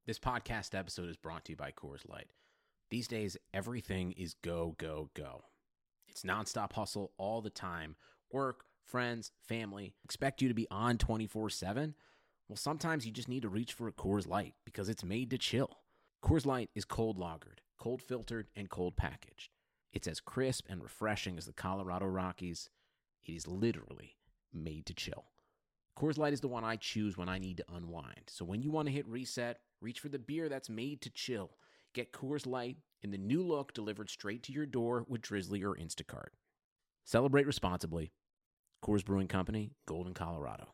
This podcast episode is brought to you by Coors Light. These days, everything is go, go, go. It's nonstop hustle all the time. Work, friends, family, expect you to be on 24/7. Well, sometimes you just need to reach for a Coors Light because it's made to chill. Coors Light is cold lagered, cold filtered, and cold packaged. It's as crisp and refreshing as the Colorado Rockies. It is literally made to chill. Coors Light is the one I choose when I need to unwind. So when you want to hit reset, reach for the beer that's made to chill. Get Coors Light in the new look delivered straight to your door with Drizzly or Instacart. Celebrate responsibly. Coors Brewing Company, Golden, Colorado.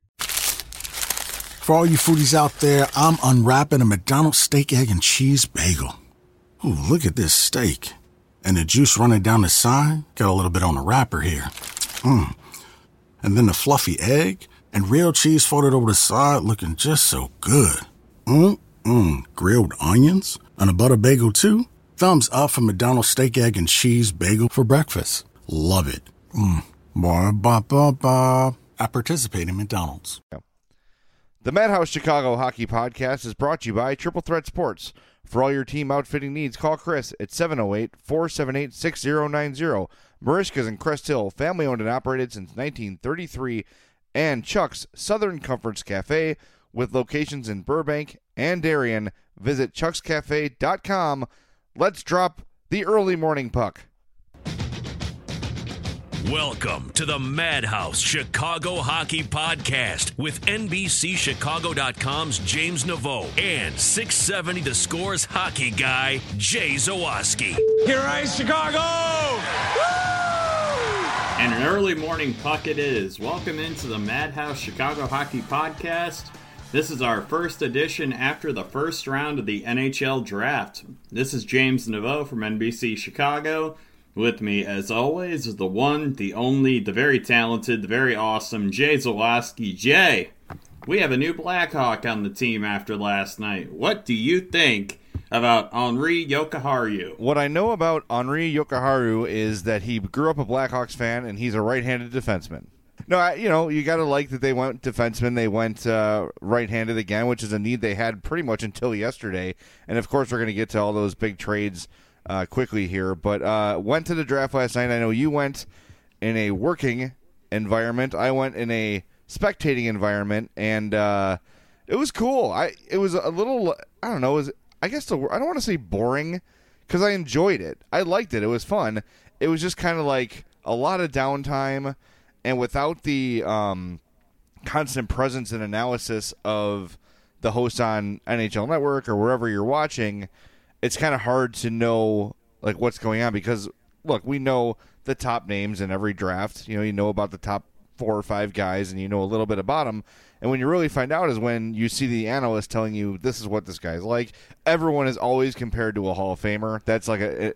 For all you foodies out there, I'm unwrapping a McDonald's steak, egg, and cheese bagel. Ooh, look at this steak. And the juice running down the side. Got a little bit on the wrapper here. And then the fluffy egg and real cheese folded over the side looking just so good. Grilled onions and a butter bagel too. Thumbs up for McDonald's steak, egg, and cheese bagel for breakfast. Love it. Ba-ba-ba-ba. I participate in McDonald's. The Madhouse Chicago Hockey Podcast is brought to you by Triple Threat Sports. For all your team outfitting needs, call Chris at 708-478-6090. Marishka's in Crest Hill, family owned and operated since 1933. And Chuck's Southern Comforts Cafe with locations in Burbank and Darien. Visit chuckscafe.com. Let's drop the early morning puck. Welcome to the Madhouse Chicago Hockey Podcast with NBCChicago.com's James Naveau and 670 The Score's hockey guy, Jay Zawaski. Here I Chicago! Woo! And an early morning puck it is. Welcome into the Madhouse Chicago Hockey Podcast. This is our first edition after the first round of the NHL Draft. This is James Naveau from NBC Chicago. With me, as always, is the one, the only, the very talented, the very awesome Jay Zawaski. Jay, we have a new Blackhawk on the team after last night. What do you think about Henri Jokiharju? What I know about Henri Jokiharju is that he grew up a Blackhawks fan and he's a right-handed defenseman. No, you got to like that they went defenseman. They went right-handed again, which is a need they had pretty much until yesterday. And, of course, we're going to get to all those big trades quickly here. But went to the draft last night. I know you went in a working environment. I went in a spectating environment. And it was cool. It was a little, I don't know, I guess I don't want to say boring because I enjoyed it. I liked it. It was fun. It was just kind of like a lot of downtime. And without the constant presence and analysis of the hosts on NHL Network or wherever you're watching, it's kind of hard to know like what's going on because, look, we know the top names in every draft. You know about the top 4 or 5 guys, and you know a little bit about them. And when you really find out is when you see the analyst telling you this is what this guy's like. Everyone is always compared to a Hall of Famer. That's like this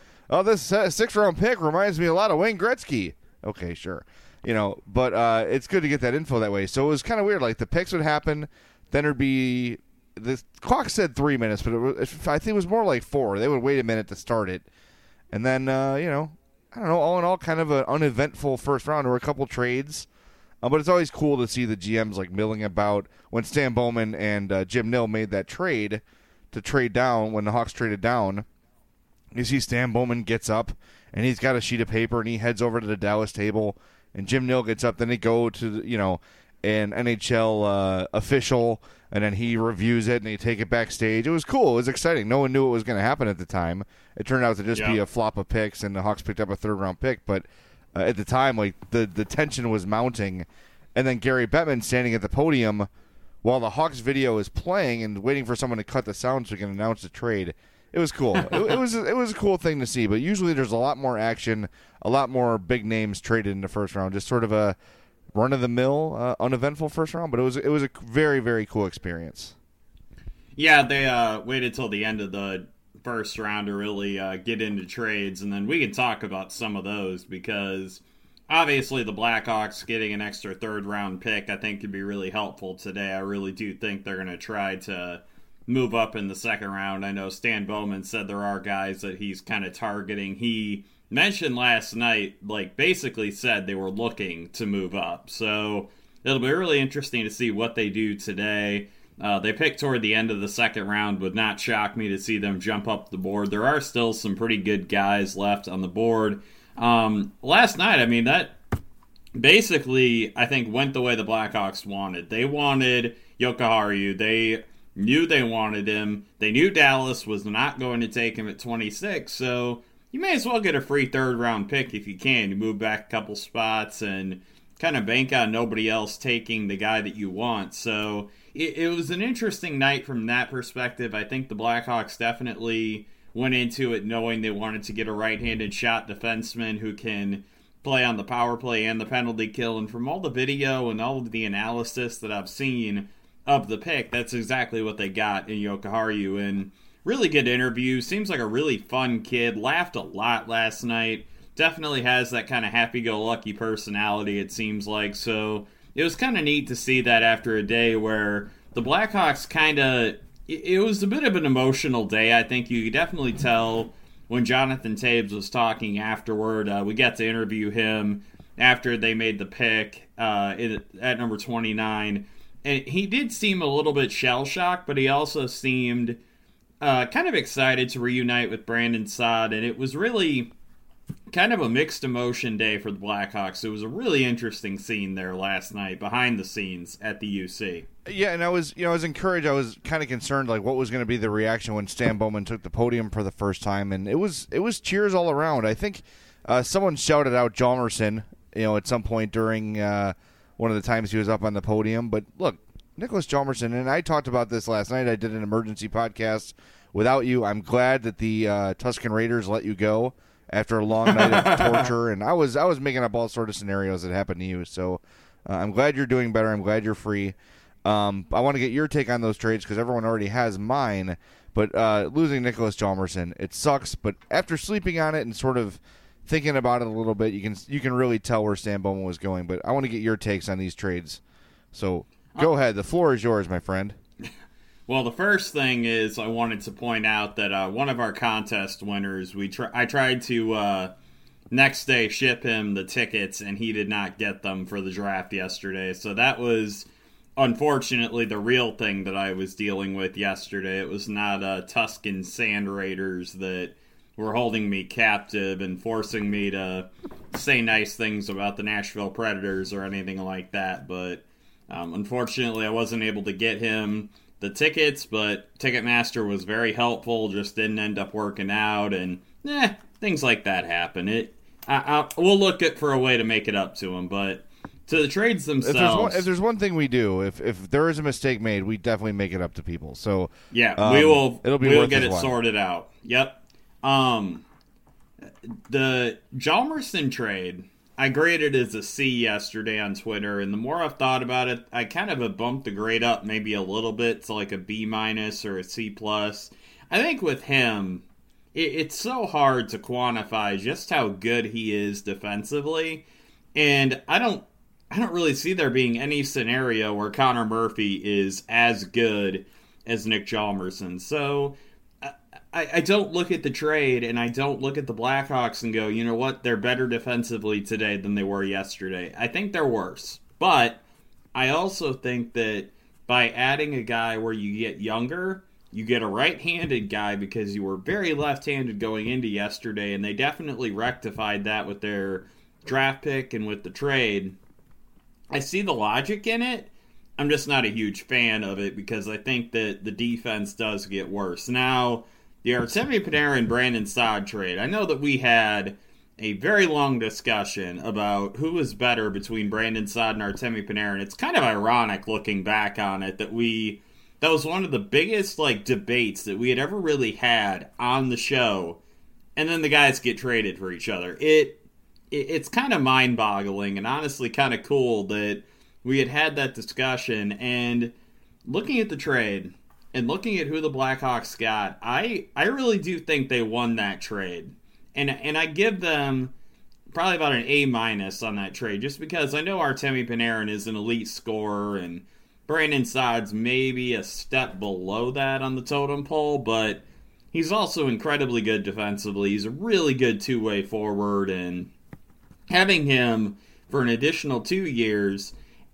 6th-round pick reminds me a lot of Wayne Gretzky. Okay, sure. But it's good to get that info that way. So it was kind of weird. Like, the picks would happen, then there'd be – the clock said 3 minutes, but I think it was more like 4. They would wait a minute to start it. And then, I don't know, all in all, kind of an uneventful first round. There were a couple trades. But it's always cool to see the GMs, like, milling about. When Stan Bowman and Jim Nill made that trade to trade down, when the Hawks traded down, you see Stan Bowman gets up, and he's got a sheet of paper, and he heads over to the Dallas table. And Jim Nill gets up, then they go to, an NHL official, and then he reviews it, and they take it backstage. It was cool. It was exciting. No one knew what was going to happen at the time. It turned out to just be a flop of picks, and the Hawks picked up a 3rd-round pick. But at the time, like the tension was mounting. And then Gary Bettman standing at the podium while the Hawks video is playing and waiting for someone to cut the sound so he can announce the trade. It was cool. it was a cool thing to see. But usually there's a lot more action, a lot more big names traded in the first round. Just sort of a run-of-the-mill, uneventful first round. But it was a very, very cool experience. Yeah, they waited till the end of the first round to really get into trades. And then we can talk about some of those because obviously the Blackhawks getting an extra 3rd-round pick I think could be really helpful today. I really do think they're going to try to move up in the 2nd round. I know Stan Bowman said there are guys that he's kind of targeting. He mentioned last night, like, basically said they were looking to move up. So it'll be really interesting to see what they do today. They picked toward the end of the second round. Would not shock me to see them jump up the board. There are still some pretty good guys left on the board. Last night, I mean, that basically, I think, went the way the Blackhawks wanted. They wanted Jokiharju. They knew they wanted him. They knew Dallas was not going to take him at 26, so you may as well get a free third-round pick if you can. You move back a couple spots and kind of bank on nobody else taking the guy that you want. So it was an interesting night from that perspective. I think the Blackhawks definitely went into it knowing they wanted to get a right-handed shot defenseman who can play on the power play and the penalty kill. And from all the video and all of the analysis that I've seen of the pick, that's exactly what they got in Jokiharju. And really good interview. Seems like a really fun kid. Laughed a lot last night. Definitely has that kind of happy-go-lucky personality, it seems like. So it was kind of neat to see that after a day where the Blackhawks kind of... It was a bit of an emotional day. I think you could definitely tell when Jonathan Toews was talking afterward. We got to interview him after they made the pick at number 29. And he did seem a little bit shell-shocked, but he also seemed kind of excited to reunite with Brandon Saad. And it was really kind of a mixed emotion day for the Blackhawks. It was a really interesting scene there last night behind the scenes at the UC. Yeah, and I was encouraged. I was kind of concerned, like, what was going to be the reaction when Stan Bowman took the podium for the first time, and it was cheers all around. I think someone shouted out Hjalmarsson, at some point during one of the times he was up on the podium. But look, Nicholas Hjalmarsson, and I talked about this last night. I did an emergency podcast without you. I'm glad that the Tuscan Raiders let you go after a long night of torture, and I was making up all sorts of scenarios that happened to you. So I'm glad you're doing better. I'm glad you're free. I want to get your take on those trades because everyone already has mine. But losing Nicholas Hjalmarsson, it sucks. But after sleeping on it and sort of thinking about it a little bit, you can really tell where Stan Bowman was going. But I want to get your takes on these trades. So go ahead. The floor is yours, my friend. Well, the first thing is I wanted to point out that one of our contest winners, I tried to next day ship him the tickets, and he did not get them for the draft yesterday. So that was, unfortunately, the real thing that I was dealing with yesterday. It was not Tuscan Sand Raiders that were holding me captive and forcing me to say nice things about the Nashville Predators or anything like that. But unfortunately, I wasn't able to get him the tickets, but Ticketmaster was very helpful, just didn't end up working out, and things like that happen. We'll look for a way to make it up to him, but to the trades themselves... If there's one thing we do, if there is a mistake made, we definitely make it up to people. So yeah, we'll get it while. Sorted out. Yep. The Hjalmarsson trade, I graded as a C yesterday on Twitter, and the more I've thought about it, I kind of have bumped the grade up maybe a little bit to like a B- or a C+. I think with him, it's so hard to quantify just how good he is defensively, and I don't really see there being any scenario where Connor Murphy is as good as Nick Hjalmarsson. So I don't look at the trade, and I don't look at the Blackhawks and go, you know what, they're better defensively today than they were yesterday. I think they're worse. But I also think that by adding a guy where you get younger, you get a right-handed guy because you were very left-handed going into yesterday, and they definitely rectified that with their draft pick and with the trade. I see the logic in it. I'm just not a huge fan of it because I think that the defense does get worse. Now, the Artemi Panarin Brandon Saad trade. I know that we had a very long discussion about who was better between Brandon Saad and Artemi Panarin. It's kind of ironic looking back on it that was one of the biggest debates that we had ever really had on the show, and then the guys get traded for each other. It's kind of mind-boggling and honestly kind of cool that we had that discussion. And looking at the trade and looking at who the Blackhawks got, I really do think they won that trade. And I give them probably about an A- on that trade, just because I know Artemi Panarin is an elite scorer and Brandon Saad's maybe a step below that on the totem pole, but he's also incredibly good defensively. He's a really good two-way forward, and having him for an additional 2 years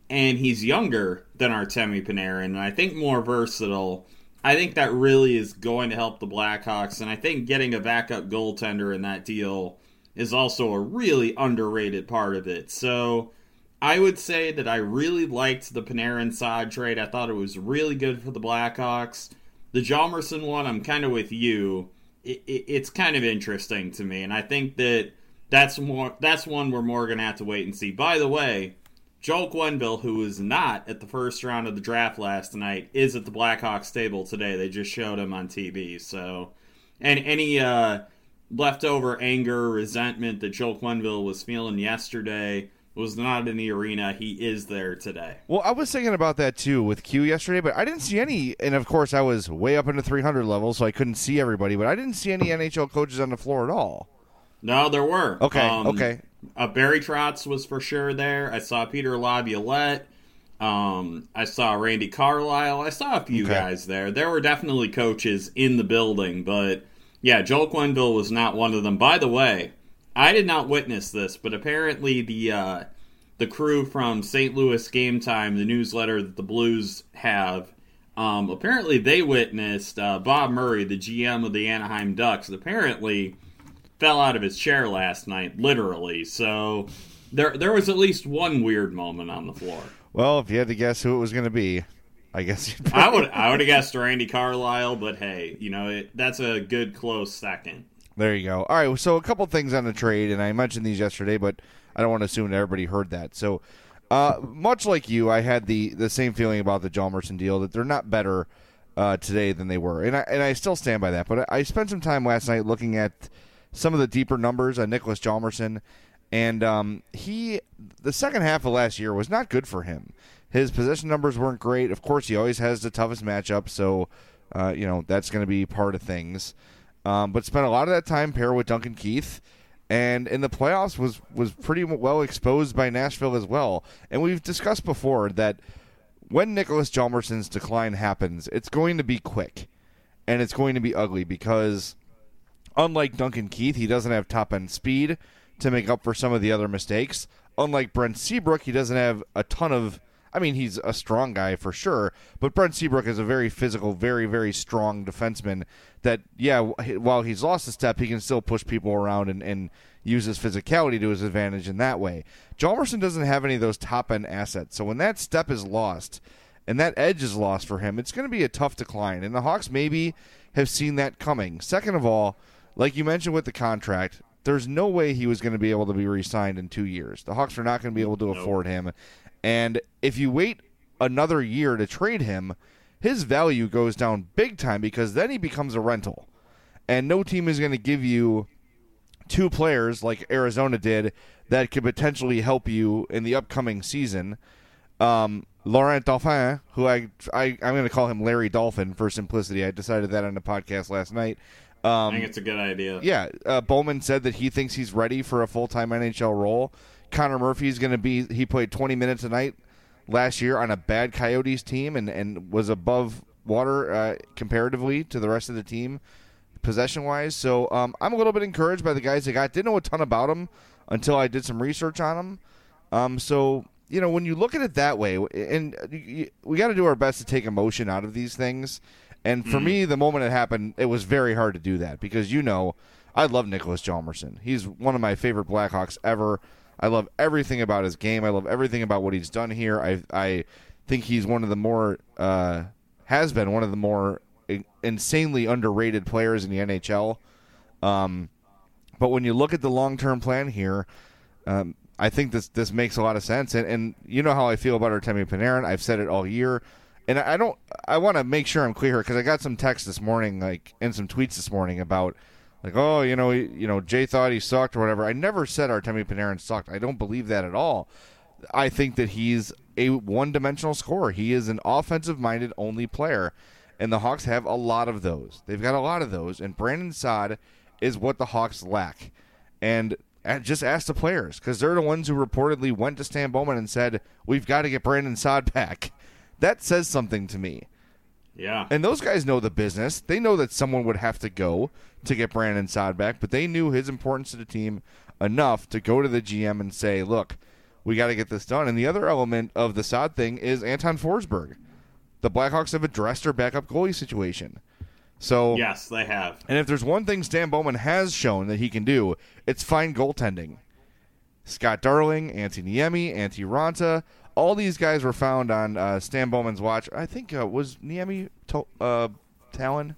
and he's younger than Artemi Panarin, and I think more versatile. I think that really is going to help the Blackhawks, and I think getting a backup goaltender in that deal is also a really underrated part of it. So I would say that I really liked the Panarin-Saad trade. I thought it was really good for the Blackhawks. The Hjalmarsson one, I'm kind of with you. It's kind of interesting to me, and I think that's one we're more going to have to wait and see. By the way, Joel Quenneville, who was not at the first round of the draft last night, is at the Blackhawks table today. They just showed him on TV. So, and any leftover anger, resentment that Joel Quenneville was feeling yesterday was not in the arena. He is there today. Well, I was thinking about that too with Q yesterday, but I didn't see any. And of course, I was way up into 300 level, so I couldn't see everybody. But I didn't see any NHL coaches on the floor at all. No, there were. Okay. Barry Trotz was for sure there. I saw Peter Laviolette. I saw Randy Carlyle. I saw a few guys there. There were definitely coaches in the building, but yeah, Joel Quenneville was not one of them. By the way, I did not witness this, but apparently the crew from St. Louis Game Time, the newsletter that the Blues have, apparently they witnessed Bob Murray, the GM of the Anaheim Ducks, apparently fell out of his chair last night, literally. So there was at least one weird moment on the floor. Well, if you had to guess who it was going to be, I guess you'd I would have guessed Randy Carlyle, but hey, that's a good close second. There you go. All right, so a couple things on the trade, and I mentioned these yesterday, but I don't want to assume that everybody heard that. So, much like you, I had the same feeling about the Hjalmarsson deal, that they're not better today than they were, and I still stand by that. But I spent some time last night looking at some of the deeper numbers on Nicholas Hjalmarsson, and the second half of last year was not good for him. His possession numbers weren't great. Of course, he always has the toughest matchup, so that's going to be part of things. But spent a lot of that time paired with Duncan Keith, and in the playoffs was pretty well exposed by Nashville as well. And we've discussed before that when Nicholas Hjalmarsson's decline happens, it's going to be quick, and it's going to be ugly because unlike Duncan Keith, he doesn't have top-end speed to make up for some of the other mistakes. Unlike Brent Seabrook, he doesn't have a ton of... I mean, he's a strong guy for sure, but Brent Seabrook is a very physical, very, very strong defenseman that, yeah, while he's lost a step, he can still push people around and use his physicality to his advantage in that way. Hjalmarsson doesn't have any of those top-end assets, so when that step is lost and that edge is lost for him, it's going to be a tough decline, and the Hawks maybe have seen that coming. Second of all, like you mentioned with the contract, there's no way he was going to be able to be re-signed in 2 years. The Hawks are not going to be able to afford him. And if you wait another year to trade him, his value goes down big time because then he becomes a rental. And no team is going to give you two players like Arizona did that could potentially help you in the upcoming season. Laurent Dauphin, who I'm going to call him Larry Dolphin for simplicity. I decided that on the podcast last night. I think it's a good idea. Yeah, Bowman said that he thinks he's ready for a full-time NHL role. Connor Murphy's going to be – he played 20 minutes a night last year on a bad Coyotes team and was above water comparatively to the rest of the team possession-wise. So I'm a little bit encouraged by the guys they got. Didn't know a ton about them until I did some research on them. So, when you look at it that way, and we got to do our best to take emotion out of these things. And for me, the moment it happened, it was very hard to do that because, I love Nicholas Hjalmarsson. He's one of my favorite Blackhawks ever. I love everything about his game. I love everything about what he's done here. I think he's one of the more has been one of the more insanely underrated players in the NHL. But when you look at the long-term plan here, I think this makes a lot of sense. And you know how I feel about Artemi Panarin. I've said it all year. And I want to make sure I'm clear because I got some texts this morning, and some tweets this morning about, Jay thought he sucked or whatever. I never said Artemi Panarin sucked. I don't believe that at all. I think that he's a one-dimensional scorer. He is an offensive-minded only player, and the Hawks have a lot of those. They've got a lot of those, and Brandon Saad is what the Hawks lack. And just ask the players because they're the ones who reportedly went to Stan Bowman and said, we've got to get Brandon Saad back. That says something to me. Yeah. And those guys know the business. They know that someone would have to go to get Brandon Saad back, but they knew his importance to the team enough to go to the GM and say, look, we got to get this done. And the other element of the Saad thing is Anton Forsberg. The Blackhawks have addressed their backup goalie situation. So yes, they have. And if there's one thing Stan Bowman has shown that he can do, it's find goaltending. Scott Darling, Antti Niemi, Antti Raanta, all these guys were found on Stan Bowman's watch. I think was Niemi Talon?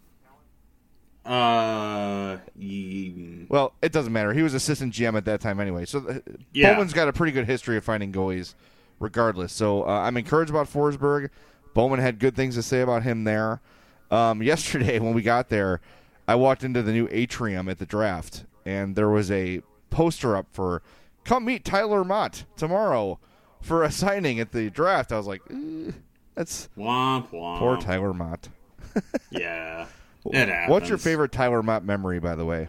Well, it doesn't matter. He was assistant GM at that time anyway. So Bowman's got a pretty good history of finding goalies regardless. So I'm encouraged about Forsberg. Bowman had good things to say about him there. Yesterday when we got there, I walked into the new atrium at the draft, and there was a poster up for come meet Tyler Mott tomorrow for a signing at the draft. I was like, that's womp womp. Poor Tyler Mott. Yeah. It happens. What's your favorite Tyler Mott memory, by the way?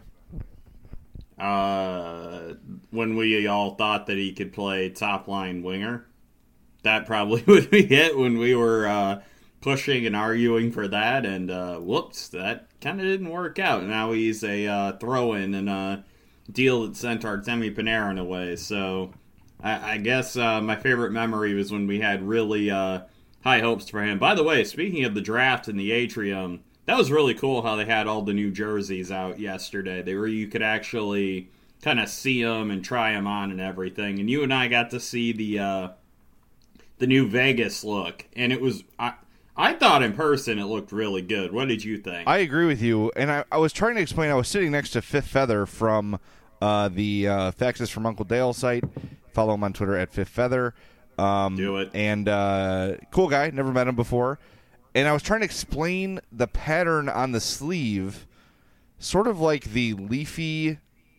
When we all thought that he could play top-line winger. That probably would be it when we were pushing and arguing for that, and whoops, that kind of didn't work out. Now he's a throw-in and a deal that sent Artemi Panarin away. So I guess my favorite memory was when we had really high hopes for him. By the way, speaking of the draft in the atrium, that was really cool how they had all the new jerseys out yesterday. They were, you could actually kind of see them and try them on and everything. And you and I got to see the new Vegas look, and it was I thought in person it looked really good. What did you think? I agree with you, and I was trying to explain. I was sitting next to Fifth Feather from the Faxes from Uncle Dale site. Follow him on Twitter at Fifth Feather. Do it. And cool guy, never met him before. And I was trying to explain the pattern on the sleeve, sort of like the leafy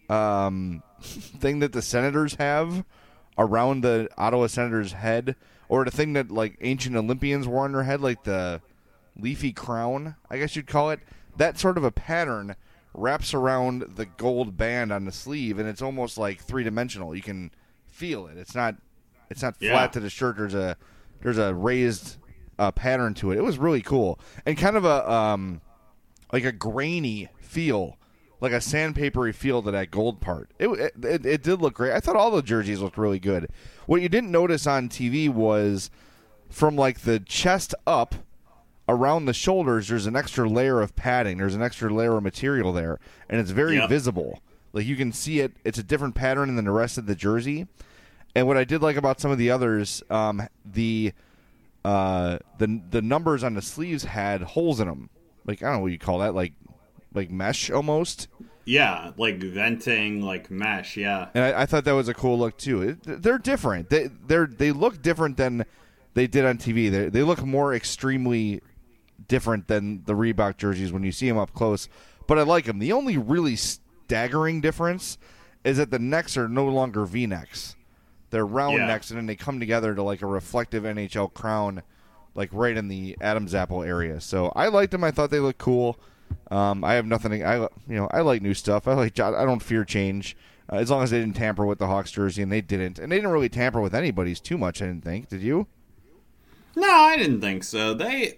thing that the Senators have around the Ottawa Senators' head, or the thing that like ancient Olympians wore on their head, like the leafy crown, I guess you'd call it. That sort of a pattern wraps around the gold band on the sleeve, and it's almost like three-dimensional. You can feel it. It's not flat to the shirt. There's a raised pattern to it. It was really cool, and kind of a like a grainy feel, like a sandpapery feel to that gold part. It did look great. I thought all the jerseys looked really good. What you didn't notice on TV was from like the chest up around the shoulders, there's an extra layer of padding. There's an extra layer of material there, and it's very visible. Like you can see it. It's a different pattern than the rest of the jersey. And what I did like about some of the others, the numbers on the sleeves had holes in them. Like I don't know what you call that, like mesh almost. Yeah, like venting, like mesh. Yeah, and I thought that was a cool look too. They're different. They look different than they did on TV. They look more extremely different than the Reebok jerseys when you see them up close. But I like them. The only really staggering difference is that the necks are no longer V-necks. They're round necks, and then they come together to like a reflective NHL crown, like right in the Adam's apple area. So I liked them. I thought they looked cool. I have nothing. I like new stuff. I don't fear change as long as they didn't tamper with the Hawks jersey, and they didn't. And they didn't really tamper with anybody's too much. I didn't think. Did you? No, I didn't think so.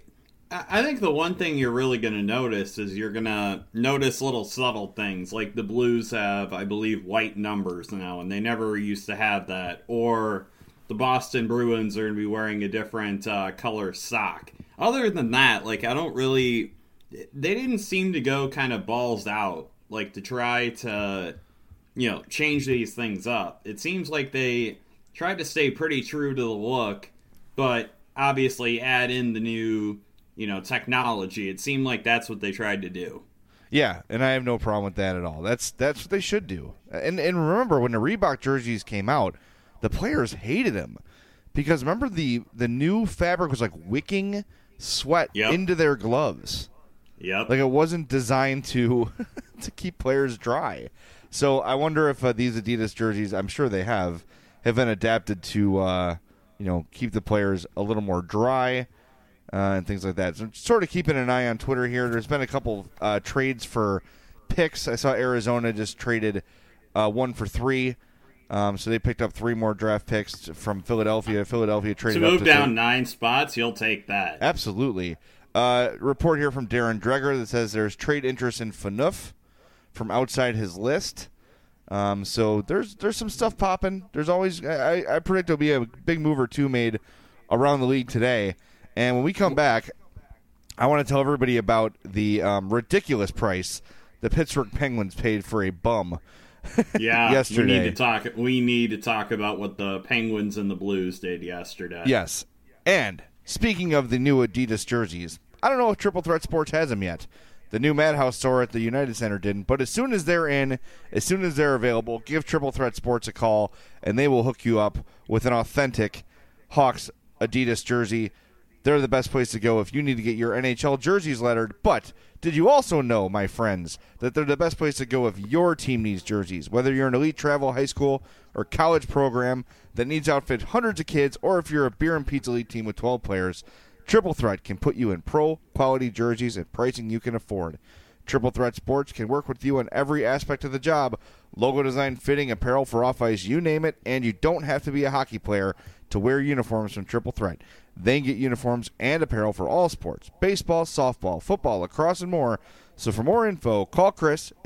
I think the one thing you're really going to notice is you're going to notice little subtle things. Like the Blues have, I believe, white numbers now, and they never used to have that. Or the Boston Bruins are going to be wearing a different color sock. Other than that, like I don't really... They didn't seem to go kind of balls out, like to try to, change these things up. It seems like they tried to stay pretty true to the look, but obviously add in the new, technology. It seemed like that's what they tried to do. Yeah, and I have no problem with that at all. That's what they should do. And remember, when the Reebok jerseys came out, the players hated them. Because remember, the new fabric was like wicking sweat into their gloves. Yep. Like it wasn't designed to keep players dry. So I wonder if these Adidas jerseys, I'm sure they have been adapted to, keep the players a little more dry and things like that. So sort of keeping an eye on Twitter here. There's been a couple trades for picks. I saw Arizona just traded 1 for 3. So they picked up 3 more draft picks from Philadelphia. Philadelphia traded to up move down 9 spots. You'll take that. Absolutely. Report here from Darren Dreger that says there's trade interest in Phaneuf from outside his list. So there's some stuff popping. There's always I predict there'll be a big move or two made around the league today. And when we come back, I want to tell everybody about the ridiculous price the Pittsburgh Penguins paid for a bum. Yeah, yesterday. We need to talk about what the Penguins and the Blues did yesterday. Yes. And speaking of the new Adidas jerseys, I don't know if Triple Threat Sports has them yet. The new Madhouse store at the United Center didn't, but as soon as they're in, as soon as they're available, give Triple Threat Sports a call, and they will hook you up with an authentic Hawks Adidas jersey. They're the best place to go if you need to get your NHL jerseys lettered. But did you also know, my friends, that they're the best place to go if your team needs jerseys? Whether you're an elite travel high school or college program that needs to outfit hundreds of kids, or if you're a beer and pizza league team with 12 players, Triple Threat can put you in pro-quality jerseys at pricing you can afford. Triple Threat Sports can work with you on every aspect of the job. Logo design, fitting, apparel for off-ice, you name it, and you don't have to be a hockey player to wear uniforms from Triple Threat. They get uniforms and apparel for all sports: baseball, softball, football, lacrosse, and more. So for more info, call Chris at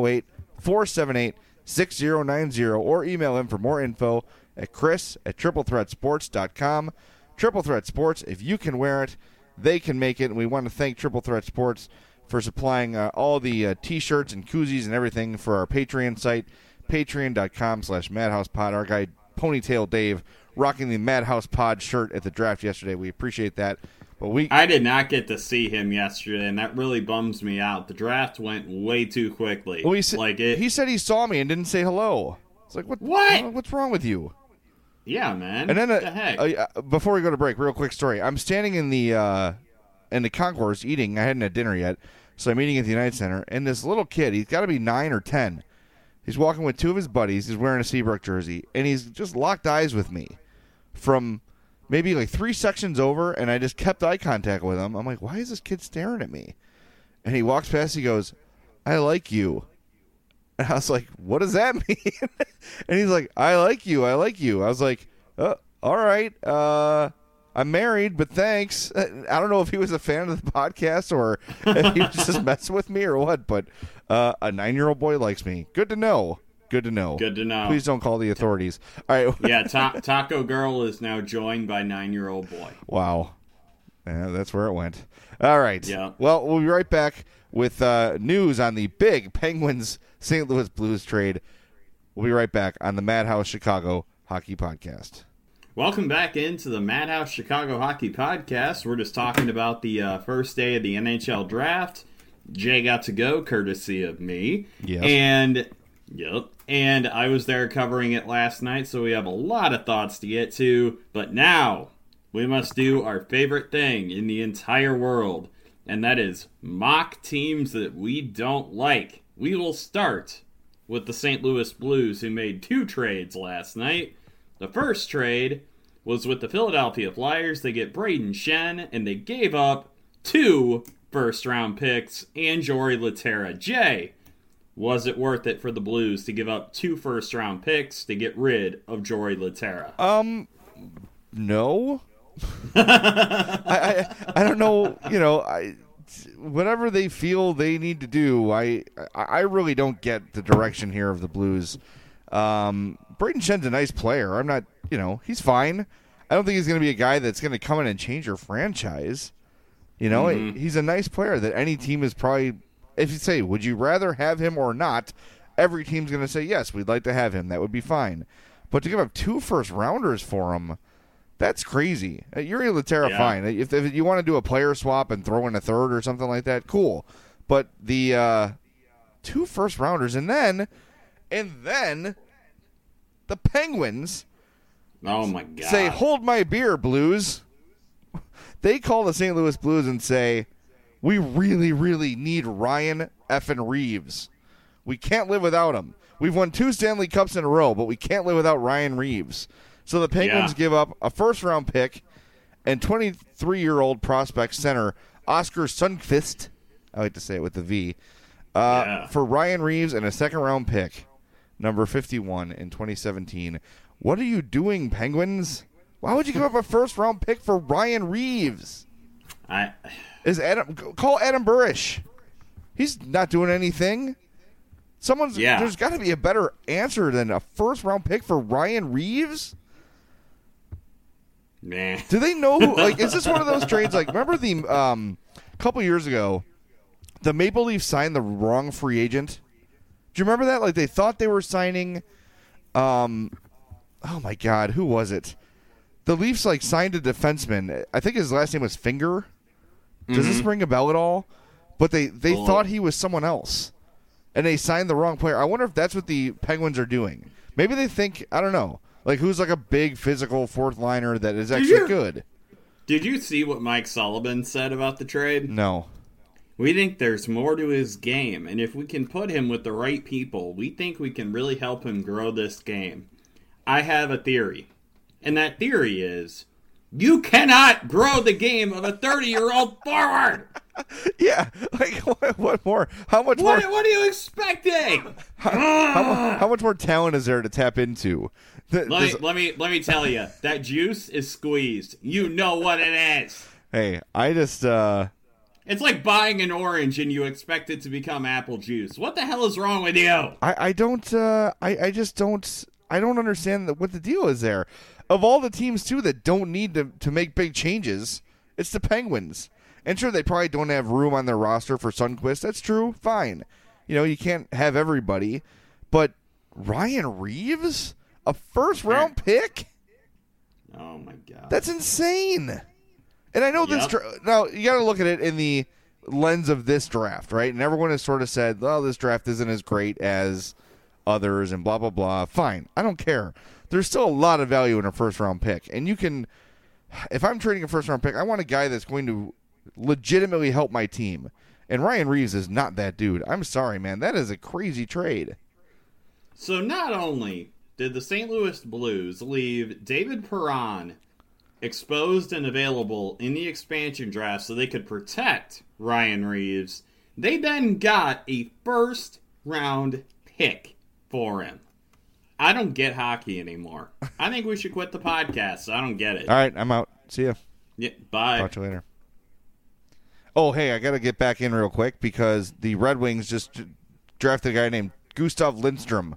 708-478-6090 or email him for more info at chris@triplethreatsports.com. Triple Threat Sports, if you can wear it, they can make it. And we want to thank Triple Threat Sports for supplying all the T-shirts and koozies and everything for our Patreon site, patreon.com/MadhousePod. Our guy, Ponytail Dave, rocking the Madhouse Pod shirt at the draft yesterday. We appreciate that. But I did not get to see him yesterday, and that really bums me out. The draft went way too quickly. Well, he said he saw me and didn't say hello. It's like, what? What's wrong with you? Yeah, man. And then, what the heck? Before we go to break, real quick story. I'm standing in the concourse eating. I hadn't had dinner yet, so I'm eating at the United Center. And this little kid, he's got to be 9 or 10. He's walking with two of his buddies. He's wearing a Seabrook jersey, and he's just locked eyes with me from maybe like 3 sections over, and I just kept eye contact with him. I'm like, why is this kid staring at me? And he walks past, he goes, "I like you." And I was like, what does that mean? And he's like, I like you. I was like, all right. I'm married, but thanks. I don't know if he was a fan of the podcast or if he was just messing with me or what, but a 9-year-old boy likes me. Good to know. Good to know. Please don't call the authorities. All right. Yeah, Taco Girl is now joined by 9-year-old boy. Wow. Yeah, that's where it went. All right. Yeah. Well, we'll be right back with news on the big Penguins St. Louis Blues trade. We'll be right back on the Madhouse Chicago Hockey Podcast. Welcome back into the Madhouse Chicago Hockey Podcast. We're just talking about the first day of the NHL draft. Jay got to go, courtesy of me. Yes. And I was there covering it last night, so we have a lot of thoughts to get to. But now, we must do our favorite thing in the entire world, and that is mock teams that we don't like. We will start with the St. Louis Blues, who made 2 trades last night. The first trade was with the Philadelphia Flyers. They get Braden Shen, and they gave up 2 first-round picks and Jori Lehtera. Jay, was it worth it for the Blues to give up 2 first-round picks to get rid of Jori Lehtera? No. I don't know, whatever they feel they need to do, I really don't get the direction here of the Blues. Braden Shen's a nice player. I'm not, he's fine. I don't think he's going to be a guy that's going to come in and change your franchise. He's a nice player that any team is probably, if you say, would you rather have him or not, every team's going to say, yes, we'd like to have him. That would be fine. But to give up 2 first-rounders for him, that's crazy. Jori Lehtera, fine. If you want to do a player swap and throw in a third or something like that, cool. But the 2 first-rounders, and then the Penguins oh my God. say, hold my beer, Blues. They call the St. Louis Blues and say, we really, really need Ryan effing Reeves. We can't live without him. We've won 2 Stanley Cups in a row, but we can't live without Ryan Reeves. So the Penguins give up a first-round pick and 23-year-old prospect center Oscar Sundqvist, I like to say it with the V, for Ryan Reeves and a second-round pick, number 51 in 2017. What are you doing, Penguins? Why would you give up a first-round pick for Ryan Reeves? Call Adam Burish. He's not doing anything. There's got to be a better answer than a first-round pick for Ryan Reaves. Nah. Do they know who? Like, is this one of those trades? Like, remember the couple years ago, the Maple Leafs signed the wrong free agent. Do you remember that? Like, they thought they were signing. Oh my God, who was it? The Leafs signed a defenseman. I think his last name was Finger. Does this ring a bell at all? But they thought he was someone else, and they signed the wrong player. I wonder if that's what the Penguins are doing. Maybe they think, I don't know, like who's like a big physical fourth liner that is actually good. Did you see what Mike Sullivan said about the trade? No. We think there's more to his game, and if we can put him with the right people, we think we can really help him grow this game. I have a theory, and that theory is you cannot grow the game of a 30-year-old forward. Yeah, like what more? How much more? What are you expecting? How much more talent is there to tap into? Let me tell you, that juice is squeezed. You know what it is. Hey, I just It's like buying an orange and you expect it to become apple juice. What the hell is wrong with you? I don't understand what the deal is there. Of all the teams too that don't need to make big changes, it's the Penguins. And sure, they probably don't have room on their roster for Sundqvist. That's true. Fine. You can't have everybody. But Ryan Reaves? A first-round pick? Oh, my God. That's insane. And I know this. Now, you got to look at it in the lens of this draft, right? And everyone has sort of said, well, this draft isn't as great as others and blah, blah, blah. Fine. I don't care. There's still a lot of value in a first-round pick. And you can, if I'm trading a first-round pick, I want a guy that's going to legitimately help my team. And Ryan Reaves is not that dude. I'm sorry, man. That is a crazy trade. So not only did the St. Louis Blues leave David Perron exposed and available in the expansion draft so they could protect Ryan Reaves, they then got a first-round pick for him. I don't get hockey anymore. I think we should quit the podcast. I don't get it. All right, I'm out. See ya. Yeah, bye. Talk to you later. Oh, hey, I got to get back in real quick because the Red Wings just drafted a guy named Gustav Lindstrom.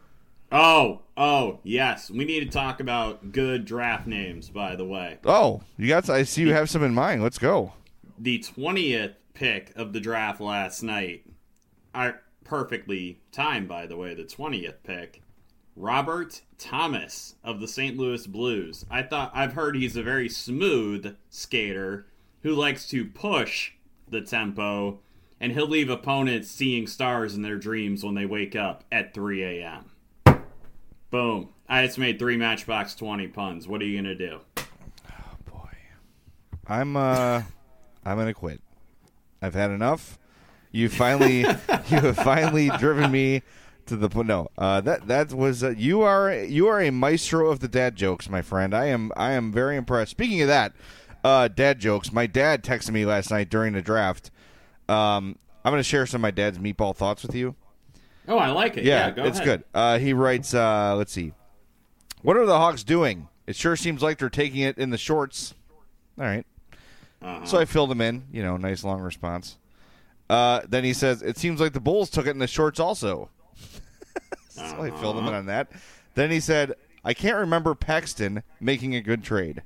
Oh, yes. We need to talk about good draft names, by the way. Oh, I see you have some in mind. Let's go. The 20th pick of the draft last night, perfectly timed, by the way, the 20th pick, Robert Thomas of the St. Louis Blues. I've heard he's a very smooth skater who likes to push the tempo, and he'll leave opponents seeing stars in their dreams when they wake up at 3 a.m. Boom. I just made 3 Matchbox 20 puns. What are you going to do? Oh, boy. I'm going to quit. I've had enough. You have finally driven me to the point. No, that was you are a maestro of the dad jokes, my friend. I am very impressed. Speaking of that, dad jokes. My dad texted me last night during the draft. I'm going to share some of my dad's meatball thoughts with you. Oh, I like it. Yeah, go it's ahead. good. He writes, let's see. What are the Hawks doing? It sure seems like they're taking it in the shorts. All right. So I filled him in. Nice long response. Then he says, it seems like the Bulls took it in the shorts also. So I filled him in on that. Then he said, I can't remember Paxton making a good trade.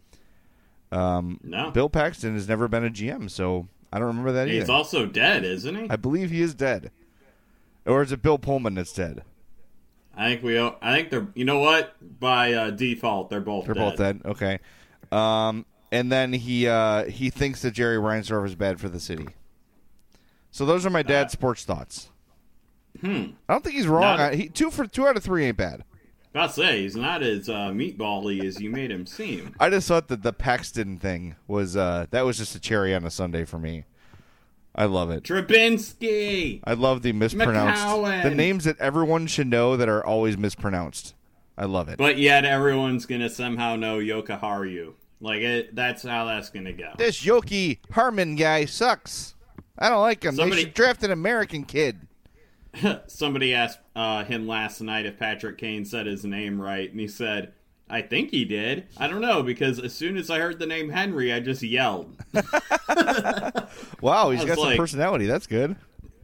No. Bill Paxton has never been a GM, so I don't remember that either. He's also dead, isn't he? I believe he is dead. Or is it Bill Pullman that's dead? I think they're. You know what? By default, they're both dead. Okay. And then he thinks that Jerry Reinsdorf is bad for the city. So those are my dad's sports thoughts. I don't think he's wrong. Two out of 3 ain't bad. I'll say he's not as meatball-y as you made him seem. I just thought that the Paxton thing was that was just a cherry on a sundae for me. I love it. Trubinsky. I love the mispronounced. McCowan. The names that everyone should know that are always mispronounced. I love it. But yet everyone's going to somehow know Yoka Haru. That's how that's going to go. This Yoki Harmon guy sucks. I don't like him. They should draft an American kid. Somebody asked him last night if Patrick Kane said his name right, and he said, I think he did. I don't know, because as soon as I heard the name Henry, I just yelled. Wow, he's got some personality. That's good.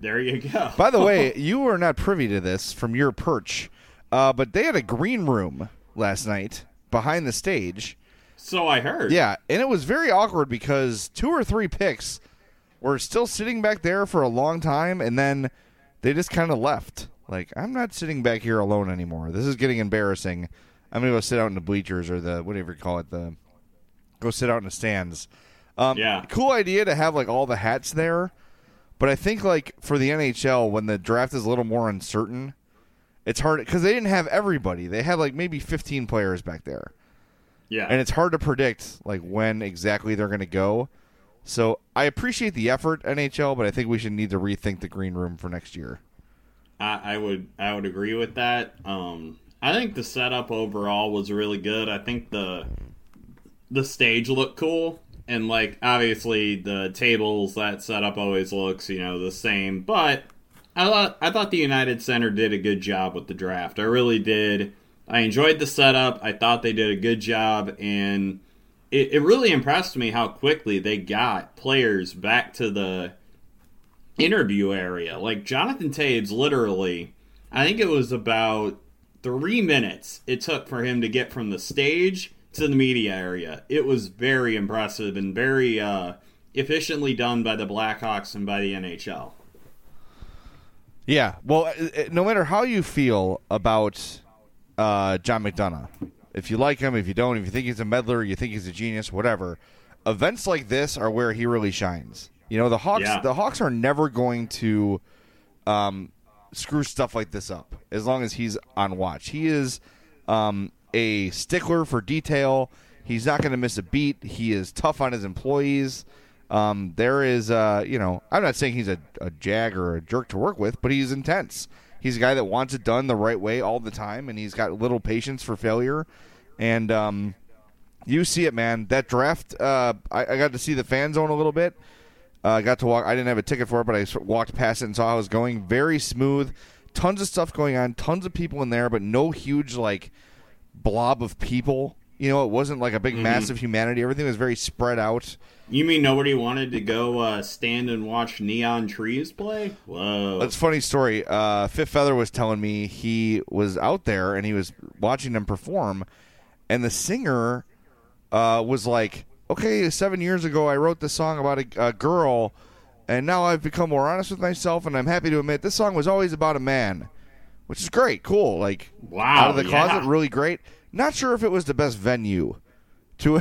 There you go. By the way, you were not privy to this from your perch, but they had a green room last night behind the stage. So I heard. Yeah, and it was very awkward because 2 or 3 picks were still sitting back there for a long time, and then they just kind of left. Like, I'm not sitting back here alone anymore. This is getting embarrassing. I'm going to go sit out in the bleachers or the, whatever you call it, go sit out in the stands. Yeah. Cool idea to have, like, all the hats there. But I think, like, for the NHL, when the draft is a little more uncertain, it's hard because they didn't have everybody. They had, like, maybe 15 players back there. Yeah. And it's hard to predict, like, when exactly they're going to go. So I appreciate the effort, NHL, but I think we should need to rethink the green room for next year. I would agree with that. I think the setup overall was really good. I think the stage looked cool, and like obviously the tables, that setup always looks the same. But I thought the United Center did a good job with the draft. I really did. I enjoyed the setup. I thought they did a good job, and it really impressed me how quickly they got players back to the interview area. Like Jonathan Toews, literally, I think it was about 3 minutes it took for him to get from the stage to the media area. It was very impressive and very efficiently done by the Blackhawks and by the NHL. Yeah, well, no matter how you feel about John McDonough, if you like him, if you don't, if you think he's a meddler, you think he's a genius, whatever, events like this are where he really shines. The Hawks are never going to screw stuff like this up as long as he's on watch. He is a stickler for detail. He's not going to miss a beat. He is tough on his employees. There is, I'm not saying he's a jag or a jerk to work with, but he's intense. He's a guy that wants it done the right way all the time, and he's got little patience for failure. And you see it, man. That draft, I got to see the fan zone a little bit. I got to walk. I didn't have a ticket for it, but I walked past it and saw how it was going. Very smooth. Tons of stuff going on. Tons of people in there, but no huge, like, blob of people. It wasn't like a big, massive humanity. Everything was very spread out. You mean nobody wanted to go stand and watch Neon Trees play? Whoa. That's a funny story. Fifth Feather was telling me he was out there and he was watching them perform, and the singer was like, okay, 7 years ago I wrote this song about a girl, and now I've become more honest with myself, and I'm happy to admit this song was always about a man, which is great, cool. Like, wow, out of the closet, really great. Not sure if it was the best venue to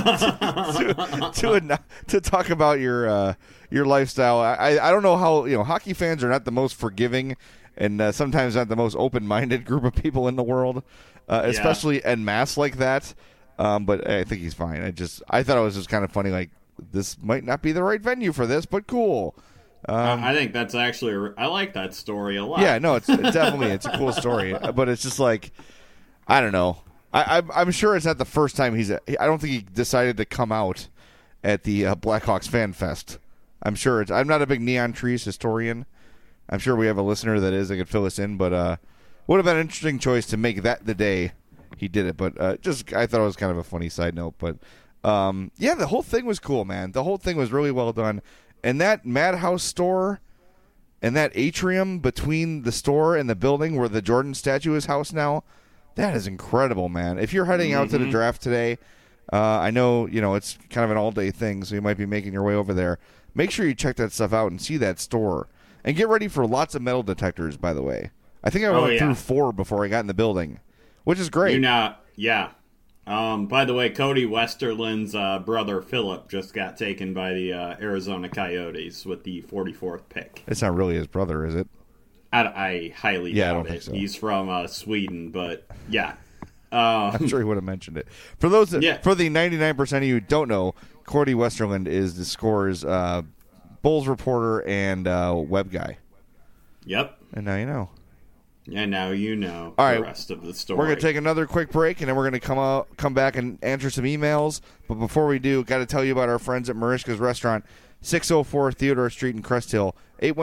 talk about your lifestyle. I don't know how hockey fans are not the most forgiving and sometimes not the most open-minded group of people in the world, especially en masse like that. But I think he's fine. I thought it was just kind of funny. Like, this might not be the right venue for this, but cool. I think that's actually I like that story a lot. Yeah, no, it's definitely it's a cool story. But it's just like, I don't know. I'm sure it's not the first time I don't think he decided to come out at the Blackhawks Fan Fest. I'm sure I'm not a big Neon Trees historian. I'm sure we have a listener that is that could fill us in, but would have been an interesting choice to make that the day he did it. But I thought it was kind of a funny side note. But yeah, the whole thing was cool, man. The whole thing was really well done. And that Madhouse store and that atrium between the store and the building where the Jordan statue is housed now, that is incredible, man. If you're heading out to the draft today, I know it's kind of an all-day thing, so you might be making your way over there. Make sure you check that stuff out and see that store. And get ready for lots of metal detectors, by the way. I think I went through 4 before I got in the building, which is great. Yeah. By the way, Cody Westerland's brother Philip just got taken by the Arizona Coyotes with the 44th pick. It's not really his brother, is it? I highly doubt I don't it. think so. He's from Sweden, but yeah. I'm sure he would have mentioned it. For those for the 99% of you who don't know, Cody Westerland is the Score's Bulls reporter and web guy. Yep. And now you know. And now you know the rest of the story. We're going to take another quick break, and then we're going to come back and answer some emails. But before we do, got to tell you about our friends at Mariska's Restaurant, 604 Theodore Street in Crest Hill,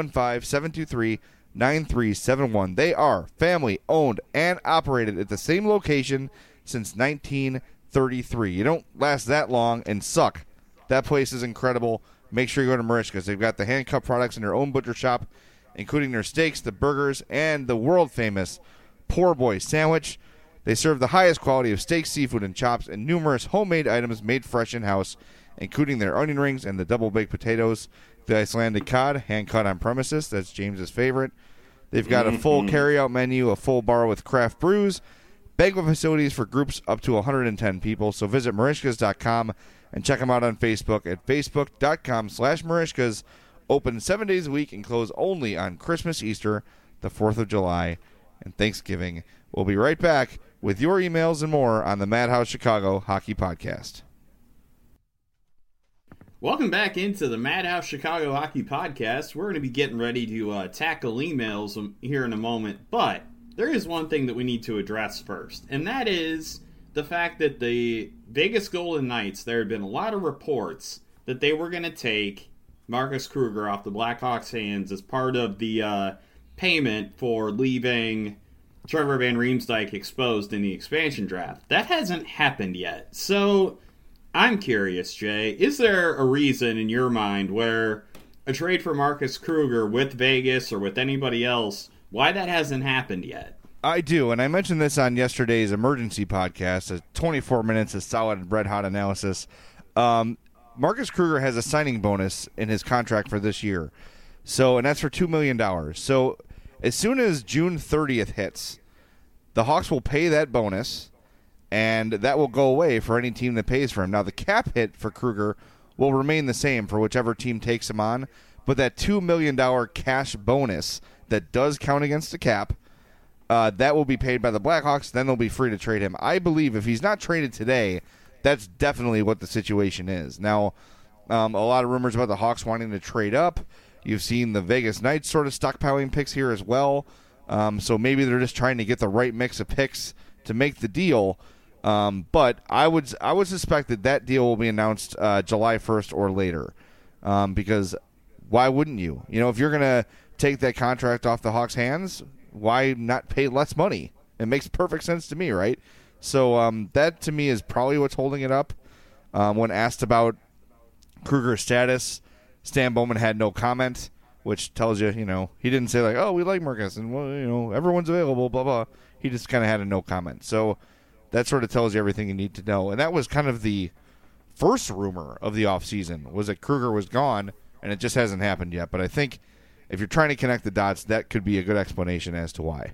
815-723-9371. They are family-owned and operated at the same location since 1933. You don't last that long and suck. That place is incredible. Make sure you go to Mariska's. They've got the hand-cut products in their own butcher shop, including their steaks, the burgers, and the world-famous Poor Boy sandwich. They serve the highest quality of steak, seafood, and chops, and numerous homemade items made fresh in-house, including their onion rings and the double-baked potatoes, the Icelandic cod, hand-cut on premises. That's James's favorite. They've got a full carry-out menu, a full bar with craft brews, banquet facilities for groups up to 110 people. So visit Merichkas.com and check them out on Facebook at facebook.com/Merichkas. Open 7 days a week and close only on Christmas, Easter, the 4th of July, and Thanksgiving. We'll be right back with your emails and more on the Madhouse Chicago Hockey Podcast. Welcome back into the Madhouse Chicago Hockey Podcast. We're going to be getting ready to tackle emails here in a moment, but there is one thing that we need to address first, and that is the fact that the Vegas Golden Knights, there had been a lot of reports that they were going to take Marcus Kruger off the Blackhawks' hands as part of the payment for leaving Trevor Van Riemsdyk exposed in the expansion draft. That hasn't happened yet. So I'm curious, Jay, is there a reason in your mind where a trade for Marcus Kruger with Vegas or with anybody else, why that hasn't happened yet? I do, and I mentioned this on yesterday's emergency podcast, 24 minutes of solid red-hot analysis. Marcus Kruger has a signing bonus in his contract for this year, and that's for $2 million. So as soon as June 30th hits, the Hawks will pay that bonus, and that will go away for any team that pays for him. Now, the cap hit for Kruger will remain the same for whichever team takes him on, but that $2 million cash bonus that does count against the cap, that will be paid by the Blackhawks. Then they'll be free to trade him. I believe if he's not traded today, that's definitely what the situation is. Now, a lot of rumors about the Hawks wanting to trade up. You've seen the Vegas Knights sort of stockpiling picks here as well. So maybe they're just trying to get the right mix of picks to make the deal. But I would suspect that deal will be announced July 1st or later. Because why wouldn't you? You know, if you're going to take that contract off the Hawks' hands, why not pay less money? It makes perfect sense to me, right? So that, to me, is probably what's holding it up. When asked about Kruger's status, Stan Bowman had no comment, which tells you, he didn't say, like, oh, we like Marcus, and, well, everyone's available, blah, blah. He just kind of had a no comment. So that sort of tells you everything you need to know. And that was kind of the first rumor of the offseason, was that Kruger was gone, and it just hasn't happened yet. But I think if you're trying to connect the dots, that could be a good explanation as to why.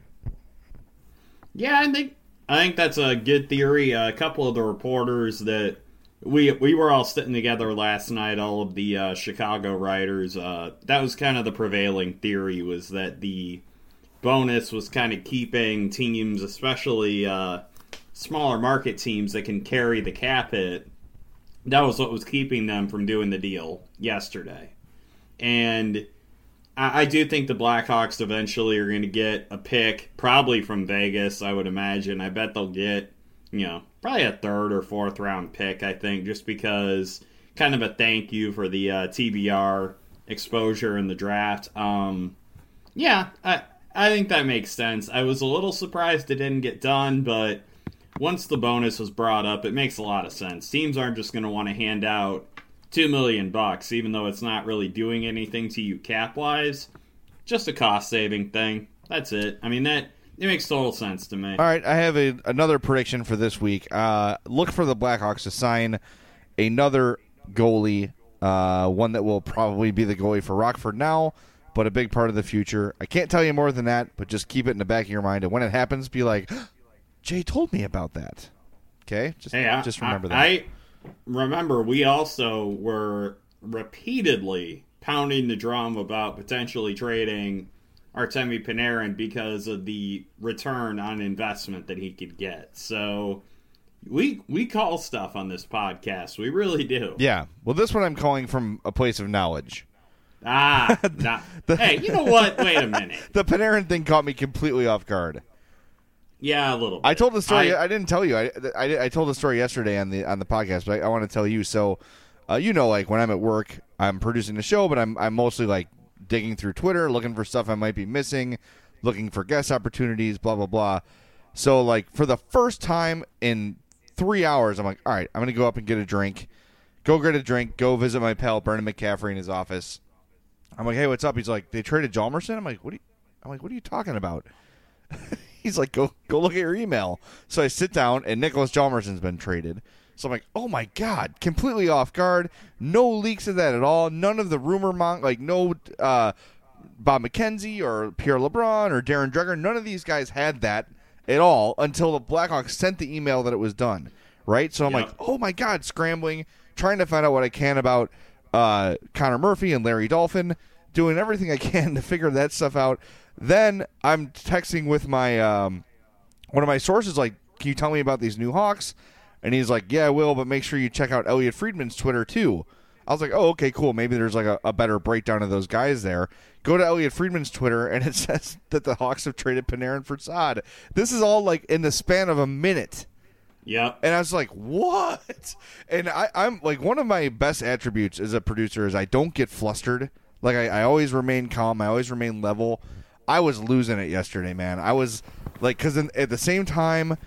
Yeah, I think that's a good theory. A couple of the reporters that we were all sitting together last night, all of the Chicago writers, that was kind of the prevailing theory, was that the bonus was kind of keeping teams, especially smaller market teams that can carry the cap hit. That was what was keeping them from doing the deal yesterday. And I do think the Blackhawks eventually are going to get a pick, probably from Vegas, I would imagine. I bet they'll get, probably a third or fourth round pick, I think, just because kind of a thank you for the TBR exposure in the draft. Yeah, I think that makes sense. I was a little surprised it didn't get done, but once the bonus was brought up, it makes a lot of sense. Teams aren't just going to want to hand out $2 million, even though it's not really doing anything to you cap-wise. Just a cost-saving thing. That's it. I mean, it makes total sense to me. All right, I have another prediction for this week. Look for the Blackhawks to sign another goalie, one that will probably be the goalie for Rockford now, but a big part of the future. I can't tell you more than that, but just keep it in the back of your mind. And when it happens, be like, Jay told me about that. Okay? Just remember that. I remember we also were repeatedly pounding the drum about potentially trading Artemi Panarin because of the return on investment that he could get. So we call stuff on this podcast. We really do. Yeah. Well, this one I'm calling from a place of knowledge. Hey, you know what? Wait a minute. The Panarin thing caught me completely off guard. Yeah, a little bit. I told the story. I didn't tell you. I told the story yesterday on the podcast, but I want to tell you. So, like when I'm at work, I'm producing the show, but I'm mostly like digging through Twitter, looking for stuff I might be missing, looking for guest opportunities, blah blah blah. So, like for the first time in 3 hours, I'm like, all right, I'm gonna go up and get a drink. Go get a drink. Go visit my pal Brendan McCaffrey in his office. I'm like, hey, what's up? He's like, they traded Hjalmarsson? I'm like, what are you talking about? He's like, go look at your email. So I sit down, and Nicholas Hjalmarsson's been traded. So I'm like, oh my God, completely off guard. No leaks of that at all. None of the rumor no Bob McKenzie or Pierre LeBrun or Darren Dreger. None of these guys had that at all until the Blackhawks sent the email that it was done. Right? So I'm like, oh my God, scrambling, trying to find out what I can about Connor Murphy and Larry Dolphin, doing everything I can to figure that stuff out. Then I'm texting with my one of my sources, like, can you tell me about these new Hawks? And he's like, yeah, I will, but make sure you check out Elliot Friedman's Twitter too. I was like, oh, okay, cool. Maybe there's like a better breakdown of those guys there. Go to Elliot Friedman's Twitter, and it says that the Hawks have traded Panarin for Saad. This is all like in the span of a minute. Yep. And I was like, what? And I'm like, one of my best attributes as a producer is I don't get flustered. Like, I always remain calm. I always remain level. I was losing it yesterday, man. I was like, because at the same time,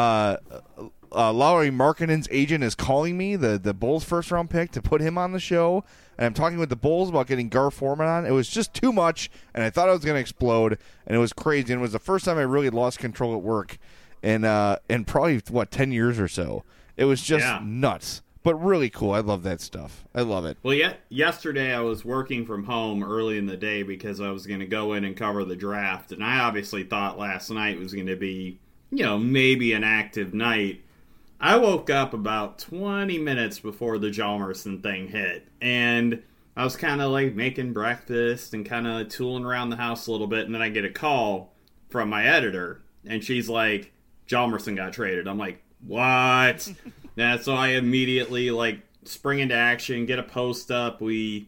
Lauri Markkanen's agent is calling me, the Bulls first round pick, to put him on the show. And I'm talking with the Bulls about getting Gar Forman on. It was just too much, and I thought I was going to explode, and it was crazy. And it was the first time I really lost control at work in probably, 10 years or so. It was just nuts. But really cool. I love that stuff. I love it. Well, yesterday I was working from home early in the day because I was going to go in and cover the draft. And I obviously thought last night was going to be, maybe an active night. I woke up about 20 minutes before the Hjalmarsson thing hit. And I was kind of like making breakfast and kind of tooling around the house a little bit. And then I get a call from my editor. And she's like, Hjalmarsson got traded. I'm like, what? Yeah, so I immediately spring into action, get a post up. We,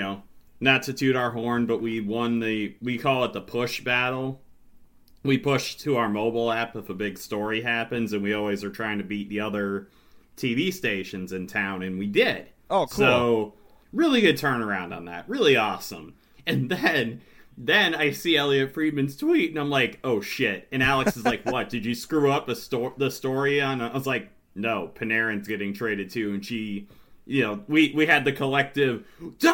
not to toot our horn, but we won we call it the push battle. We push to our mobile app if a big story happens, and we always are trying to beat the other TV stations in town, and we did. Oh, cool. So, really good turnaround on that. Really awesome. And then I see Elliot Friedman's tweet, and I'm like, oh, shit. And Alex is like, what, did you screw up the story on? I was like, no, Panarin's getting traded too, and she, we had the collective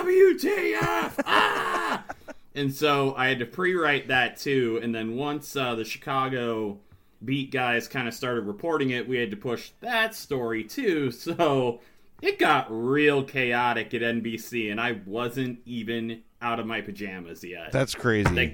WTF, ah! And so I had to pre-write that too, and then once the Chicago beat guys kind of started reporting it, we had to push that story too, so it got real chaotic at NBC, and I wasn't even out of my pajamas yet. That's crazy.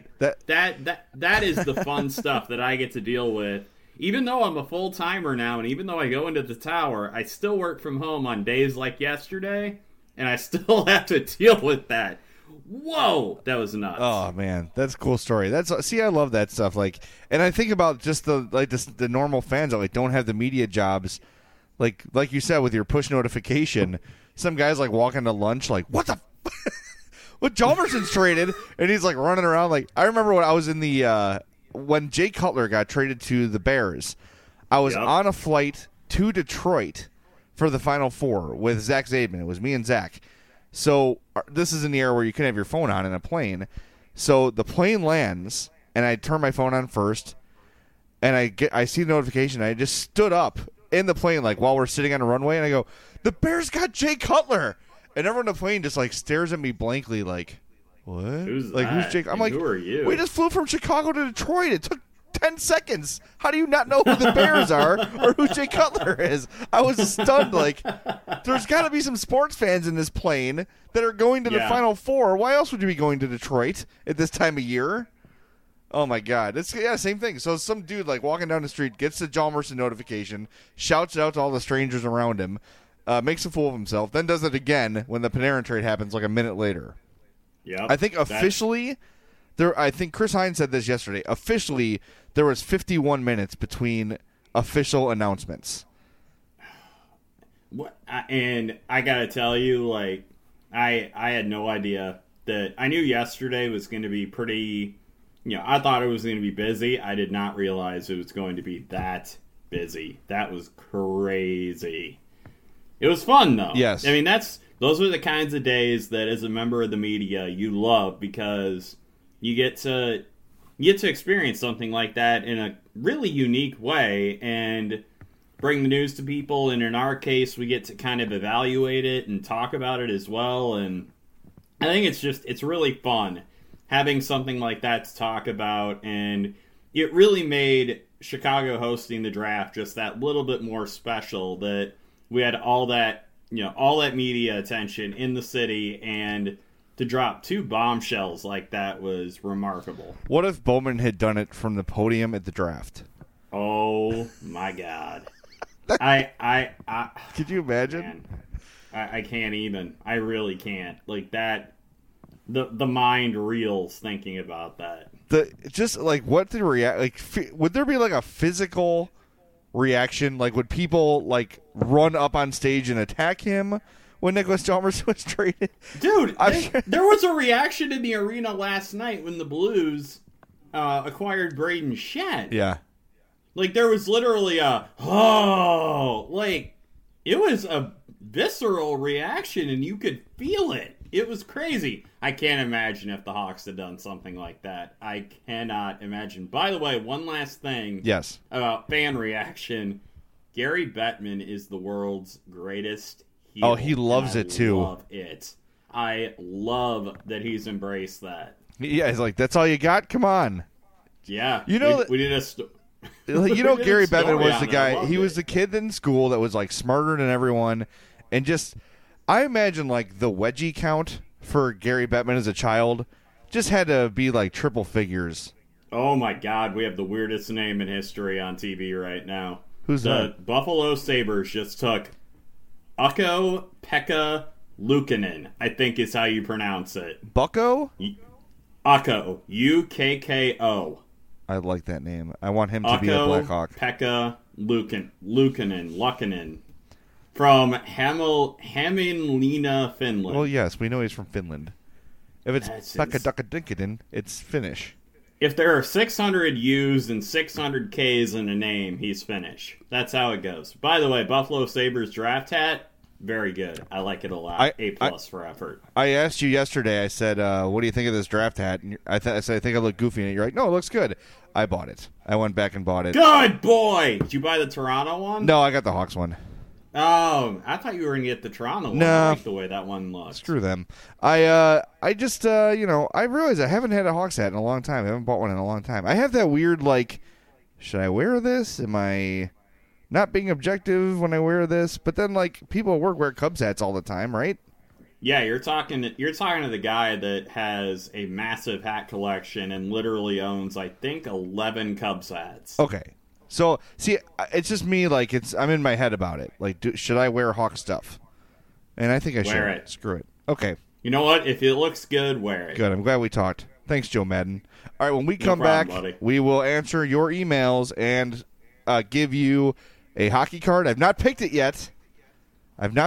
That is the fun stuff that I get to deal with. Even though I'm a full-timer now, and even though I go into the tower, I still work from home on days like yesterday, and I still have to deal with that. Whoa, that was nuts. Oh, man, that's a cool story. I love that stuff. And I think about just the normal fans that don't have the media jobs. Like you said, with your push notification, some guys walking to lunch what the what, Hjalmarsson's traded, and he's running around. I remember when I was in the when Jay Cutler got traded to the Bears, I was on a flight to Detroit for the Final Four with Zach Zaidman. It was me and Zach. So this is in the era where you can have your phone on in a plane. So the plane lands, and I turn my phone on first, and I see the notification. I just stood up in the plane while we're sitting on a runway, and I go, the Bears got Jay Cutler. And everyone on the plane just stares at me blankly what? Who's that? Who's Jake? I'm who are you? We just flew from Chicago to Detroit. It took 10 seconds. How do you not know who the Bears are or who Jay Cutler is? I was stunned. There's got to be some sports fans in this plane that are going to the Final Four. Why else would you be going to Detroit at this time of year? Oh, my God. It's same thing. So some dude, walking down the street, gets the Hjalmarsson notification, shouts it out to all the strangers around him, makes a fool of himself, then does it again when the Panarin trade happens a minute later. Yeah, I think officially, I think Chris Hines said this yesterday. Officially, there was 51 minutes between official announcements. What? And I gotta tell you, I had no idea that. I knew yesterday was going to be pretty. I thought it was going to be busy. I did not realize it was going to be that busy. That was crazy. It was fun though. Yes, I mean those are the kinds of days that, as a member of the media, you love because you get to experience something like that in a really unique way and bring the news to people. And in our case, we get to kind of evaluate it and talk about it as well. And I think it's really fun having something like that to talk about, and it really made Chicago hosting the draft just that little bit more special, that we had all that media attention in the city, and to drop 2 bombshells like that was remarkable. What if Bowman had done it from the podium at the draft? Oh my God. Could you imagine? Man, I can't even. I really can't. Like that, the mind reels thinking about that. What the react? Like, would there be like a physical reaction? Like, would people like run up on stage and attack him when Nicholas Chalmers was traded? Dude, there was a reaction in the arena last night when the Blues acquired Braden Shen. Yeah. Like, there was literally it was a visceral reaction, and you could feel it. It was crazy. I can't imagine if the Hawks had done something like that. I cannot imagine. By the way, one last thing. Yes. About fan reaction. Gary Bettman is the world's greatest heel. Oh, he loves it too. I love it. I love that he's embraced that. Yeah, he's like, that's all you got? Come on. Yeah. You know, we did a Gary Bettman was the guy. He was it. the kid in school that was like smarter than everyone, and just I imagine like the wedgie count for Gary Bettman as a child just had to be like triple figures. Oh my God, we have the weirdest name in history on TV right now. Who's that? The Buffalo Sabres just took Ukko-Pekka Luukkonen, I think is how you pronounce it. Bucko? Ukko, Ukko. I like that name. I want him to be a Blackhawk. Pekka Luukkonen from Hämeenlinna, Finland. Well, yes, we know he's from Finland. If it's Pekka Dukkadinkaden, it's Finnish. If there are 600 U's and 600 K's in a name, he's Finnish. That's how it goes. By the way, Buffalo Sabres draft hat, very good. I like it a lot. A+ for effort. I asked you yesterday, I said, what do you think of this draft hat? And I said, I think I look goofy in it. You're like, no, it looks good. I bought it. I went back and bought it. Good boy! Did you buy the Toronto one? No, I got the Hawks one. Oh, I thought you were going to get the Toronto one. No. I like the way that one looks. Screw them. I just, I realized I haven't had a Hawks hat in a long time. I haven't bought one in a long time. I have that weird, like, should I wear this? Am I not being objective when I wear this? But then, like, people at work wear Cubs hats all the time, right? Yeah, you're talking to the guy that has a massive hat collection and literally owns, I think, 11 Cubs hats. Okay. So, see, it's just me, like, I'm in my head about it. Like, should I wear Hawk stuff? And I think I should. Wear it. Screw it. Okay. You know what? If it looks good, wear it. Good. I'm glad we talked. Thanks, Joe Madden. All right, when we come problem, back, buddy. we will answer your emails and give you a hockey card. I've not picked it yet. And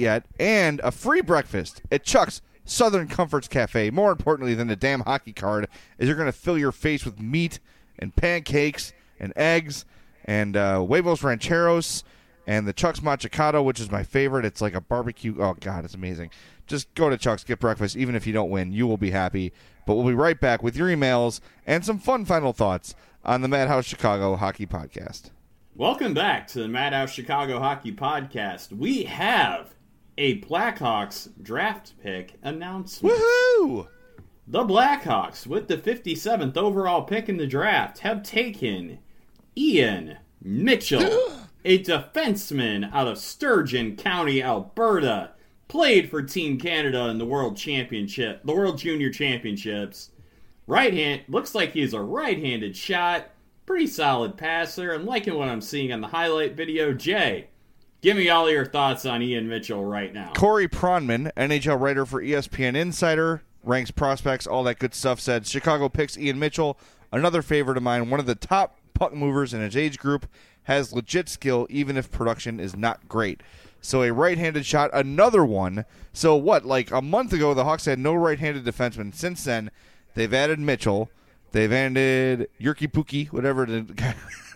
a free breakfast at Chuck's Southern Comforts Cafe. More importantly than the damn hockey card is you're going to fill your face with meat and pancakes and eggs and huevos rancheros and the Chuck's Machacado, which is my favorite. It's like a barbecue. Oh, God, it's amazing. Just go to Chuck's, get breakfast. Even if you don't win, you will be happy. But we'll be right back with your emails and some fun final thoughts on the Madhouse Chicago Hockey Podcast. Welcome back to the Madhouse Chicago Hockey Podcast. We have a Blackhawks draft pick announcement. Woohoo! The Blackhawks, with the 57th overall pick in the draft, have taken Ian Mitchell, a defenseman out of Sturgeon County, Alberta, played for Team Canada in the World Junior Championships. Looks like he's a right-handed shot. Pretty solid passer. I'm liking what I'm seeing on the highlight video. Jay, give me all your thoughts on Ian Mitchell right now. Corey Pronman, NHL writer for ESPN Insider, ranks prospects, all that good stuff, said Chicago picks Ian Mitchell, another favorite of mine, one of the top puck movers in his age group, has legit skill even if production is not great. So a right-handed shot, another one. So what, like a month ago the Hawks had no right-handed defenseman. Since then, they've added Mitchell. They've added Jyrki Pukki, whatever the guy.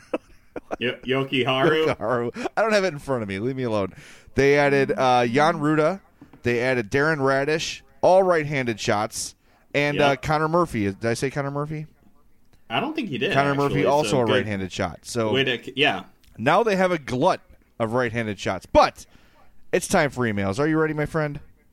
Yoki Haru. I don't have it in front of me. Leave me alone. They added Jan Ruda. They added Darren Radish. All right-handed shots. And Connor Murphy. Did I say Connor Murphy? I don't think he did. Connor actually. Murphy, also a good right-handed shot. So yeah. Now they have a glut of right-handed shots. But it's time for emails. Are you ready, my friend?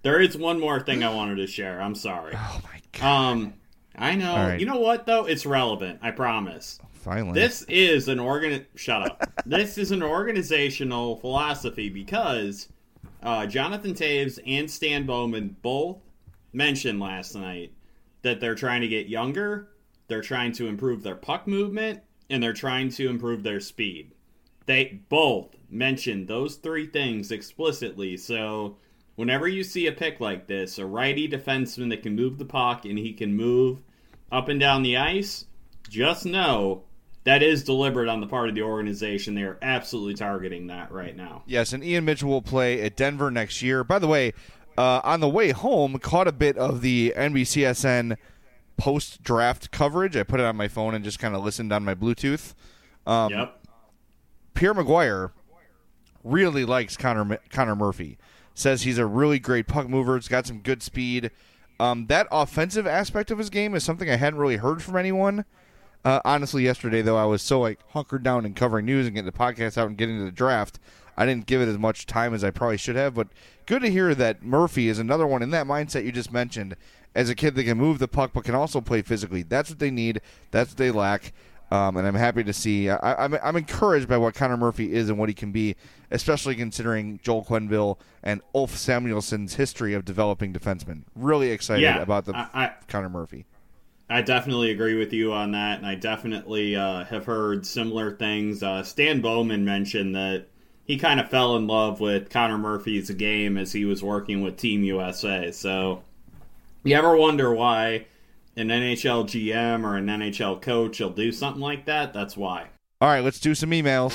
There is one more thing I wanted to share. I'm sorry. Oh, my God. I know. Right. You know what, though? It's relevant. I promise. Finally. This is an Shut up. This is an organizational philosophy because Jonathan Toews and Stan Bowman both mentioned last night that they're trying to get younger, they're trying to improve their puck movement, and they're trying to improve their speed. They both mentioned those three things explicitly, so whenever you see a pick like this, a righty defenseman that can move the puck and he can move up and down the ice, just know that is deliberate on the part of the organization. They are absolutely targeting that right now. Yes, and Ian Mitchell will play at Denver next year. By the way, on the way home, caught a bit of the NBCSN post-draft coverage. I put it on my phone and just kind of listened on my Bluetooth. Yep. Pierre Maguire really likes Connor Murphy. Says he's a really great puck mover. He's got some good speed. That offensive aspect of his game is something I hadn't really heard from anyone. Honestly, yesterday, though, I was so hunkered down and covering news and getting the podcast out and getting to the draft, I didn't give it as much time as I probably should have. But good to hear that Murphy is another one in that mindset you just mentioned, as a kid that can move the puck but can also play physically. That's what they need. That's what they lack. And I'm happy to see. I'm encouraged by what Connor Murphy is and what he can be, especially considering Joel Quenneville and Ulf Samuelsson's history of developing defensemen. Really excited about Connor Murphy. I definitely agree with you on that, and I definitely have heard similar things. Stan Bowman mentioned that he kind of fell in love with Connor Murphy's game as he was working with Team USA. So you ever wonder why an NHL GM or an NHL coach will do something like that? That's why. All right, let's do some emails.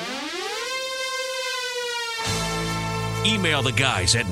Email the guys at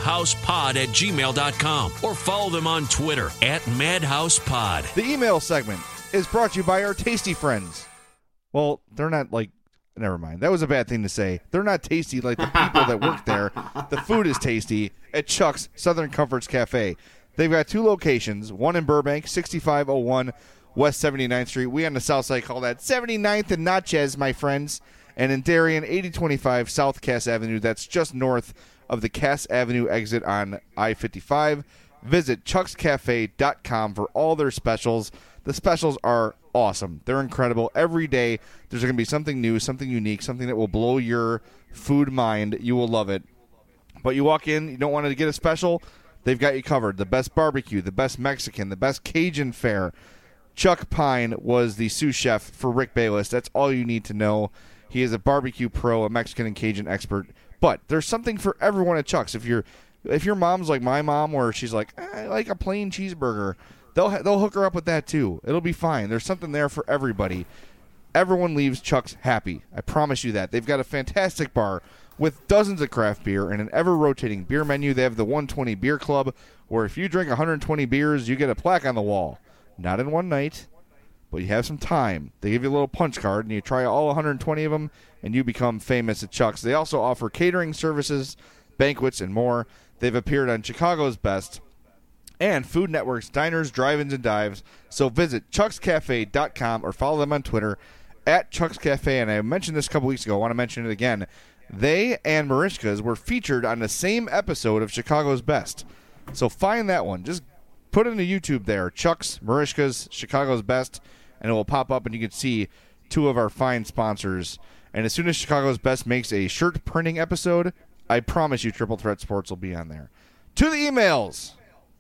madhousepod@gmail.com or follow them on Twitter @madhousepod. The email segment is brought to you by our tasty friends. Well, they're not never mind. That was a bad thing to say. They're not tasty like the people that work there. The food is tasty at Chuck's Southern Comforts Cafe. They've got two locations, one in Burbank, 6501 West 79th Street. We on the south side call that 79th and Natchez, my friends. And in Darien, 8025 South Cass Avenue. That's just north of the Cass Avenue exit on I-55. Visit chuckscafe.com for all their specials. The specials are awesome. They're incredible. Every day there's going to be something new, something unique, something that will blow your food mind. You will love it. But you walk in, you don't want to get a special, they've got you covered. The best barbecue, the best Mexican, the best Cajun fare. Chuck Pine was the sous chef for Rick Bayless. That's all you need to know. He is a barbecue pro, a Mexican and Cajun expert. But there's something for everyone at Chuck's. If your mom's like my mom, where she's like, I like a plain cheeseburger, they'll hook her up with that too. It'll be fine. There's something there for everybody. Everyone leaves Chuck's happy. I promise you that. They've got a fantastic bar with dozens of craft beer and an ever-rotating beer menu. They have the 120 Beer Club, where if you drink 120 beers, you get a plaque on the wall. Not in one night, but you have some time. They give you a little punch card, and you try all 120 of them, and you become famous at Chuck's. They also offer catering services, banquets, and more. They've appeared on Chicago's Best and Food Network's Diners, Drive-Ins, and Dives. So visit chuckscafe.com or follow them on Twitter @ChucksCafe. And I mentioned this a couple weeks ago. I want to mention it again. They and Marishka's were featured on the same episode of Chicago's Best. So find that one. Just put it into YouTube there, Chuck's, Marishka's, Chicago's Best, and it will pop up, and you can see two of our fine sponsors. And as soon as Chicago's Best makes a shirt printing episode, I promise you Triple Threat Sports will be on there. To the emails.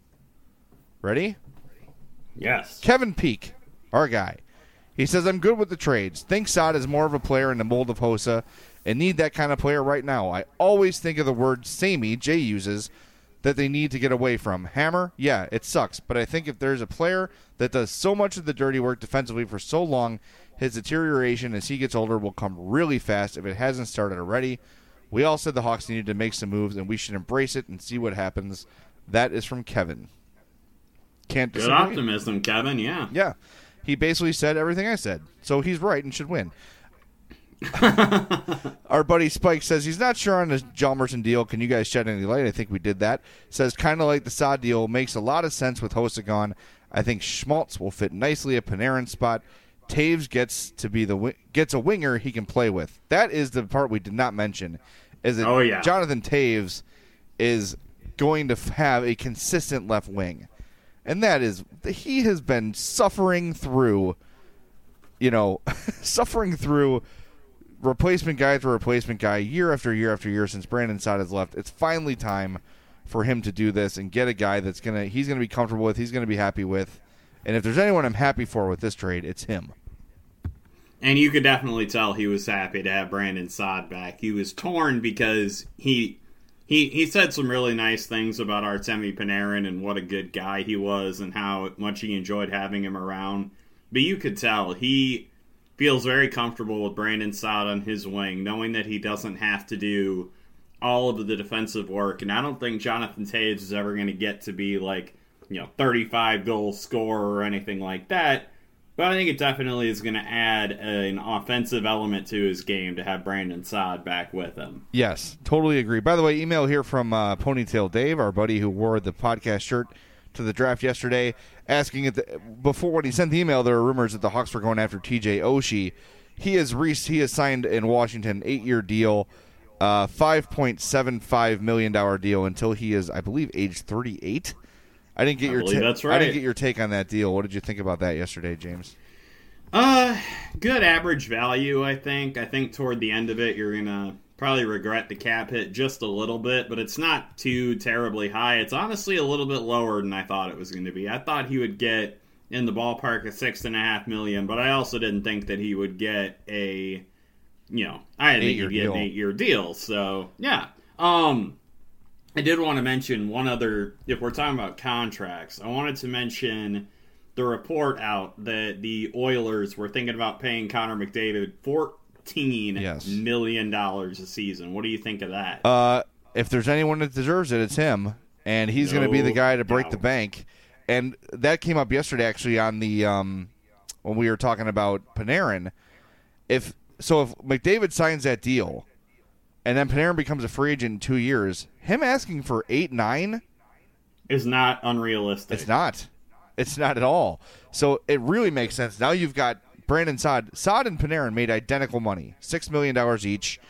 Ready? Yes. Kevin Peak, our guy. He says, I'm good with the trades. Think Saad is more of a player in the mold of Hossa and need that kind of player right now. I always think of the word samey Jay uses that they need to get away from. Hammer? Yeah, it sucks. But I think if there's a player that does so much of the dirty work defensively for so long, his deterioration as he gets older will come really fast if it hasn't started already. We all said the Hawks needed to make some moves, and we should embrace it and see what happens. That is from Kevin. Can't disagree. Good optimism, Kevin, yeah. Yeah. He basically said everything I said. So he's right and should win. Our buddy Spike says he's not sure on the Hjalmarsson deal. Can you guys shed any light? I think we did that. Says kind of like the Saad deal. Makes a lot of sense with Hossa gone. I think Schmaltz will fit nicely at Panarin's spot. Taves gets a winger he can play with. That is the part we did not mention. Is that Oh, yeah. Jonathan Taves is going to have a consistent left wing. And that is, he has been suffering through, suffering through replacement guy after replacement guy year after year after year since Brandon Saad has left. It's finally time for him to do this and get a guy he's going to be comfortable with, he's going to be happy with. And if there's anyone I'm happy for with this trade, it's him. And you could definitely tell he was happy to have Brandon Saad back. He was torn because he said some really nice things about Artemi Panarin and what a good guy he was and how much he enjoyed having him around. But you could tell he feels very comfortable with Brandon Saad on his wing, knowing that he doesn't have to do all of the defensive work. And I don't think Jonathan Toews is ever going to get to be 35 goal scorer or anything like that. But I think it definitely is going to add an offensive element to his game to have Brandon Saad back with him. Yes, totally agree. By the way, email here from Ponytail Dave, our buddy who wore the podcast shirt to the draft yesterday, asking before when he sent the email, there were rumors that the Hawks were going after TJ Oshie. He has signed in Washington an 8-year deal, $5.75 million deal until he is, I believe, age 38. I didn't get that's right. I didn't get your take on that deal. What did you think about that yesterday, James? Good average value, I think. I think toward the end of it, you're gonna probably regret the cap hit just a little bit, but it's not too terribly high. It's honestly a little bit lower than I thought it was going to be. I thought he would get in the ballpark of $6.5 million, but I also didn't think that he would get I didn't think he'd get an 8-year deal. So yeah. I did want to mention one other, if we're talking about contracts, I wanted to mention the report out that the Oilers were thinking about paying Connor McDavid $14 million a season. What do you think of that? If there's anyone that deserves it, it's him, and he's going to be the guy to break the bank. And that came up yesterday, actually, on the when we were talking about Panarin. If McDavid signs that deal, and then Panarin becomes a free agent in 2 years, him asking for 8-9 is not unrealistic. It's not. It's not at all. So it really makes sense. Now you've got Brandon Saad. Saad and Panarin made identical money, $6 million each.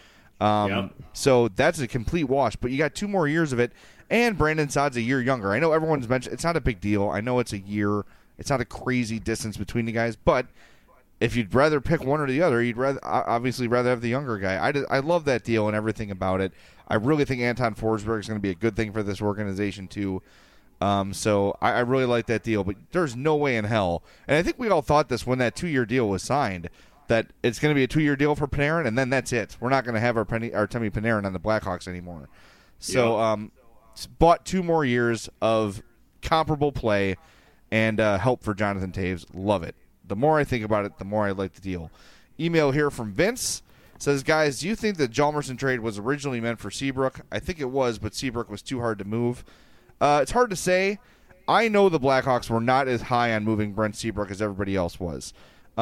So that's a complete wash. But you got 2 more years of it, and Brandon Saad's a year younger. I know everyone's mentioned it's not a big deal. I know it's a year. It's not a crazy distance between the guys, but if you'd rather pick one or the other, you'd obviously rather have the younger guy. I love that deal and everything about it. I really think Anton Forsberg is going to be a good thing for this organization too. So I really like that deal, but there's no way in hell. And I think we all thought this when that 2-year deal was signed, that it's going to be a 2-year deal for Panarin, and then that's it. We're not going to have our Artemi Panarin on the Blackhawks anymore. So bought 2 more years of comparable play and help for Jonathan Toews. Love it. The more I think about it, the more I like the deal. Email here from Vince says, guys, do you think the Hjalmarsson trade was originally meant for Seabrook? I think it was, but Seabrook was too hard to move. It's hard to say. I know the Blackhawks were not as high on moving Brent Seabrook as everybody else was.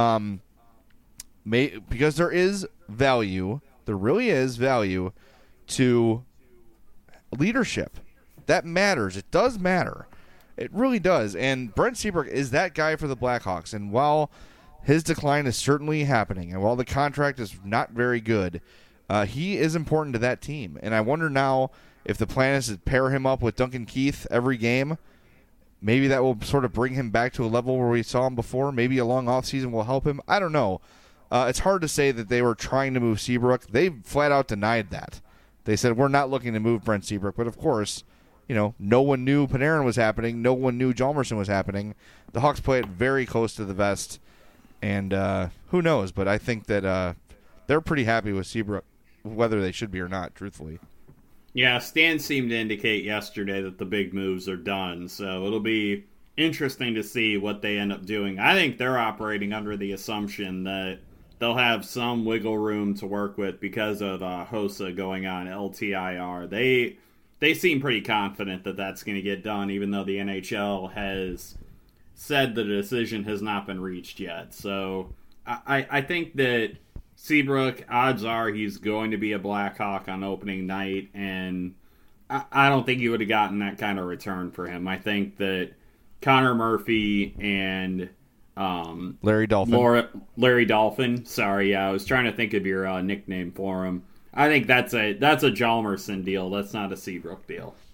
Because there is value, there really is value to leadership. That matters. It does matter. It really does. And Brent Seabrook is that guy for the Blackhawks. And while his decline is certainly happening, and while the contract is not very good, he is important to that team. And I wonder now if the plan is to pair him up with Duncan Keith every game. Maybe that will sort of bring him back to a level where we saw him before. Maybe a long offseason will help him. I don't know. It's hard to say that they were trying to move Seabrook. They flat out denied that. They said, we're not looking to move Brent Seabrook. But, of course, no one knew Panarin was happening. No one knew Hjalmarsson was happening. The Hawks play it very close to the vest. And who knows? But I think that they're pretty happy with Seabrook, whether they should be or not, truthfully. Yeah, Stan seemed to indicate yesterday that the big moves are done. So it'll be interesting to see what they end up doing. I think they're operating under the assumption that they'll have some wiggle room to work with because of Hossa going on LTIR. They seem pretty confident that that's going to get done, even though the NHL has said the decision has not been reached yet. So I think that Seabrook, odds are he's going to be a Blackhawk on opening night, and I don't think you would have gotten that kind of return for him. I think that Connor Murphy and Larry Dolphin. Sorry, I was trying to think of your nickname for him. I think that's a Hjalmarsson deal. That's not a Seabrook deal.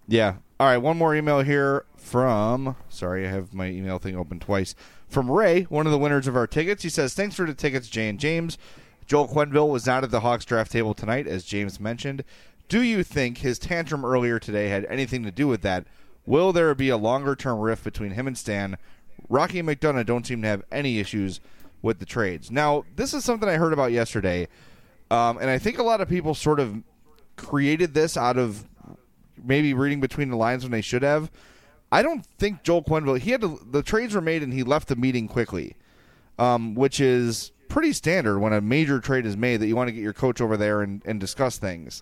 Yeah. All right, one more email here from, sorry, I have my email thing open twice, from Ray, one of the winners of our tickets. He says, thanks for the tickets, Jay and James. Joel Quenneville was not at the Hawks draft table tonight, as James mentioned. Do you think his tantrum earlier today had anything to do with that? Will there be a longer-term rift between him and Stan? Rocky and McDonough don't seem to have any issues with the trades. Now, this is something I heard about yesterday, and I think a lot of people sort of created this out of maybe reading between the lines when they should have. I don't think Joel Quenneville, the trades were made and he left the meeting quickly, which is pretty standard when a major trade is made that you want to get your coach over there and discuss things.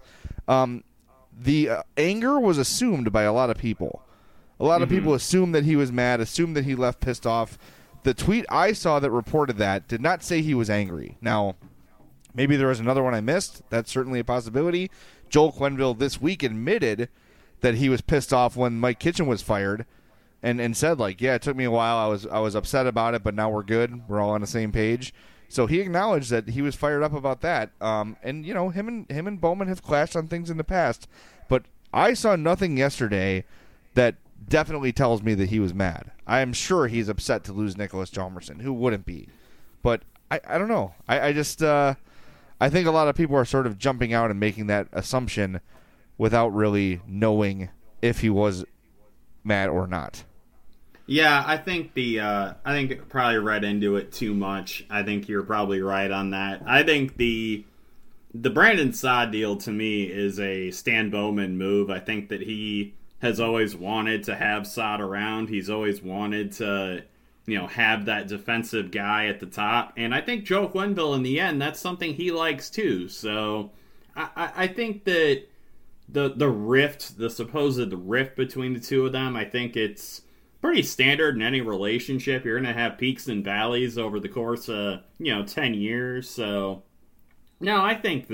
The anger was assumed by a lot of people. A lot of people assumed that he was mad, assumed that he left pissed off. The tweet I saw that reported that did not say he was angry. Now, maybe there was another one I missed. That's certainly a possibility. Joel Quenneville this week admitted that he was pissed off when Mike Kitchen was fired and said, like, yeah, it took me a while. I was upset about it, but now we're good. We're all on the same page. So he acknowledged that he was fired up about that. And, you know, him and Bowman have clashed on things in the past. But I saw nothing yesterday that definitely tells me that he was mad. I am sure he's upset to lose Nicholas Hjalmarsson. Who wouldn't be? But I don't know. I just I think a lot of people are sort of jumping out and making that assumption without really knowing if he was mad or not. Yeah, I think I think it probably read into it too much. I think you're probably right on that. I think the Brandon Saad deal to me is a Stan Bowman move. I think that he has always wanted to have Saad around. He's always wanted to, you know, have that defensive guy at the top. And I think Joe Quenneville, in the end, that's something he likes too. So I think that the rift, the supposed rift between the two of them, I think it's pretty standard in any relationship. You're going to have peaks and valleys over the course of, 10 years. So, no, I think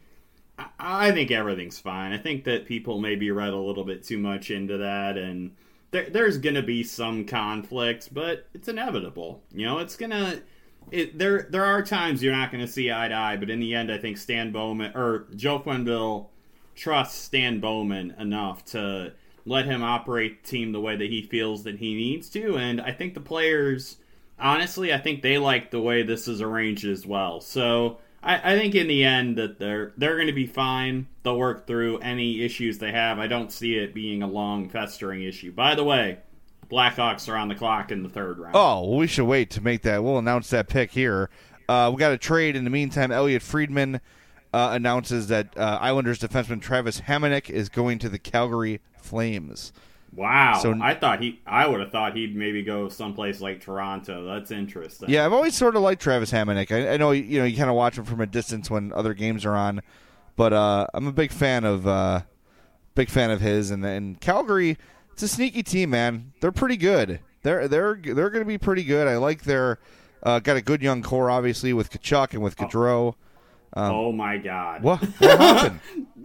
everything's fine. I think that people maybe read a little bit too much into that, and there's going to be some conflict, but it's inevitable. It's going to... There are times you're not going to see eye to eye, but in the end, I think Stan Bowman, or Joe Quenneville, trusts Stan Bowman enough to let him operate the team the way that he feels that he needs to, and I think the players, honestly, I think they like the way this is arranged as well. So I think in the end that they're going to be fine. They'll work through any issues they have. I don't see it being a long festering issue. By the way, Blackhawks are on the clock in the third round. Oh, well, we should wait to make that. We'll announce that pick here. We got a trade. In the meantime, Elliot Friedman announces that Islanders defenseman Travis Hamonic is going to the Calgary Flames. Wow. So I would have thought he'd maybe go someplace like Toronto. That's interesting. Yeah, I've always sort of liked Travis Hamonic. I know you kind of watch him from a distance when other games are on, but I'm a big fan of his. And Calgary, it's a sneaky team, man. They're pretty good. They're going to be pretty good. I like their got a good young core, obviously, with Tkachuk and with Gaudreau. Oh my God! What happened?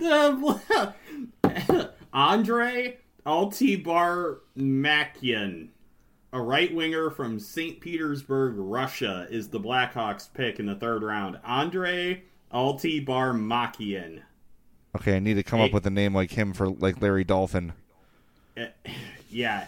Andre Altibarmakian, a right winger from St. Petersburg, Russia, is the Blackhawks pick in the third round. Andre Altibarmakian. Okay, I need to come up with a name like him for like Larry Dolphin. Yeah,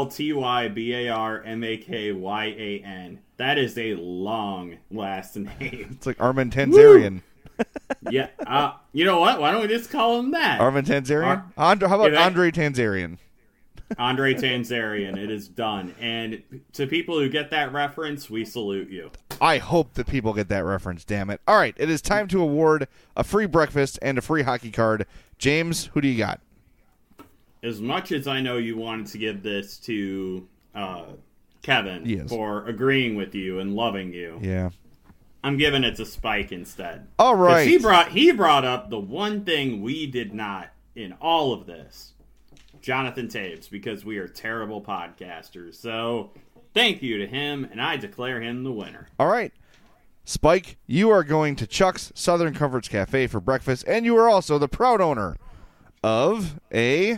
Altibarmakyan. That is a long last name. It's like Armin Tanzarian. Yeah. You know what? Why don't we just call him that? Armin Tanzarian? How about Andre Tanzarian? Andre Tanzarian. It is done. And to people who get that reference, we salute you. I hope that people get that reference, damn it. All right, it is time to award a free breakfast and a free hockey card. James, who do you got? As much as I know you wanted to give this to Kevin for agreeing with you and loving you. Yeah. I'm giving it to Spike instead. All right. He brought up the one thing we did not in all of this. Jonathan Toews, because we are terrible podcasters. So thank you to him, and I declare him the winner. All right. Spike, you are going to Chuck's Southern Comforts Cafe for breakfast, and you are also the proud owner of a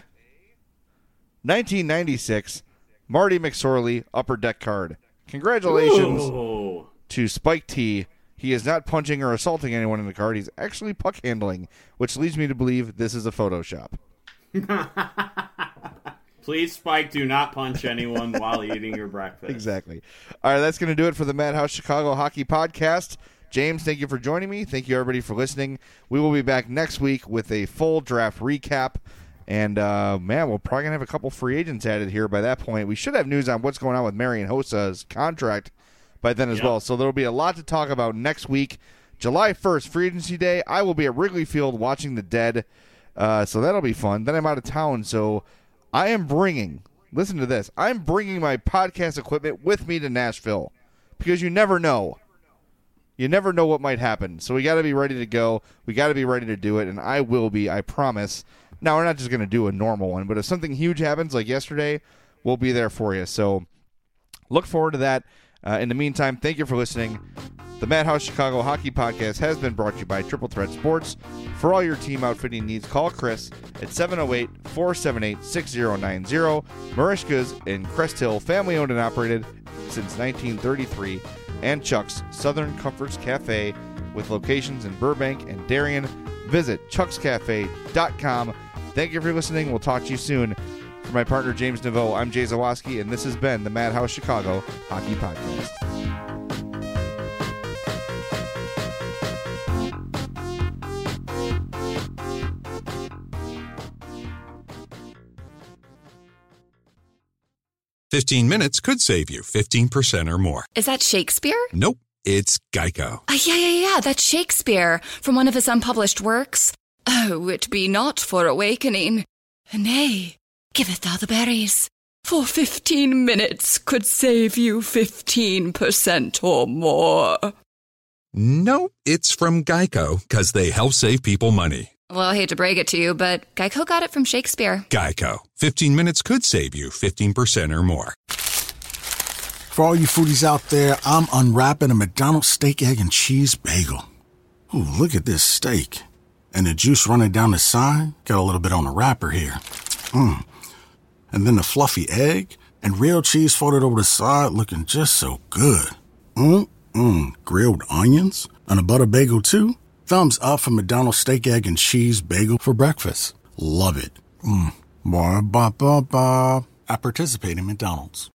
1996 Marty McSorley Upper Deck card. Congratulations to Spike T. He is not punching or assaulting anyone in the card. He's actually puck handling, which leads me to believe this is a Photoshop. Please, Spike, do not punch anyone while eating your breakfast. Exactly. All right, that's going to do it for the Madhouse Chicago Hockey Podcast. James, thank you for joining me. Thank you, everybody, for listening. We will be back next week with a full draft recap. And, man, we're probably going to have a couple free agents added here by that point. We should have news on what's going on with Marian Hossa's contract by then as well. So there will be a lot to talk about next week. July 1st, free agency day. I will be at Wrigley Field watching the Dead. So that'll be fun. Then I'm out of town, so I am bringing, listen to this, I'm bringing my podcast equipment with me to Nashville because you never know. You never know what might happen. So we got to be ready to go. We got to be ready to do it, and I will be, I promise. Now, we're not just going to do a normal one, but if something huge happens like yesterday, we'll be there for you. So look forward to that. In the meantime, thank you for listening. The Madhouse Chicago Hockey Podcast has been brought to you by Triple Threat Sports. For all your team outfitting needs, call Chris at 708-478-6090. Marishka's in Crest Hill, family-owned and operated since 1933. And Chuck's Southern Comforts Cafe with locations in Burbank and Darien. Visit chuckscafe.com. Thank you for listening. We'll talk to you soon. For my partner, James Naveau, I'm Jay Zawaski, and this has been the Madhouse Chicago Hockey Podcast. "15 minutes could save you 15% or more." Is that Shakespeare? Nope, it's Geico. Yeah, that's Shakespeare from one of his unpublished works. Oh, it be not for awakening. Nay, giveth thou the berries. For 15 minutes could save you 15% or more. Nope, it's from Geico, because they help save people money. Well, I hate to break it to you, but Geico got it from Shakespeare. Geico. 15 minutes could save you 15% or more. For all you foodies out there, I'm unwrapping a McDonald's steak, egg, and cheese bagel. Ooh, look at this steak. And the juice running down the side, got a little bit on the wrapper here. And then the fluffy egg and real cheese folded over the side, looking just so good. Grilled onions and a butter bagel too. Thumbs up for McDonald's steak, egg, and cheese bagel for breakfast. Love it. Ba-ba-ba-ba. I participate in McDonald's.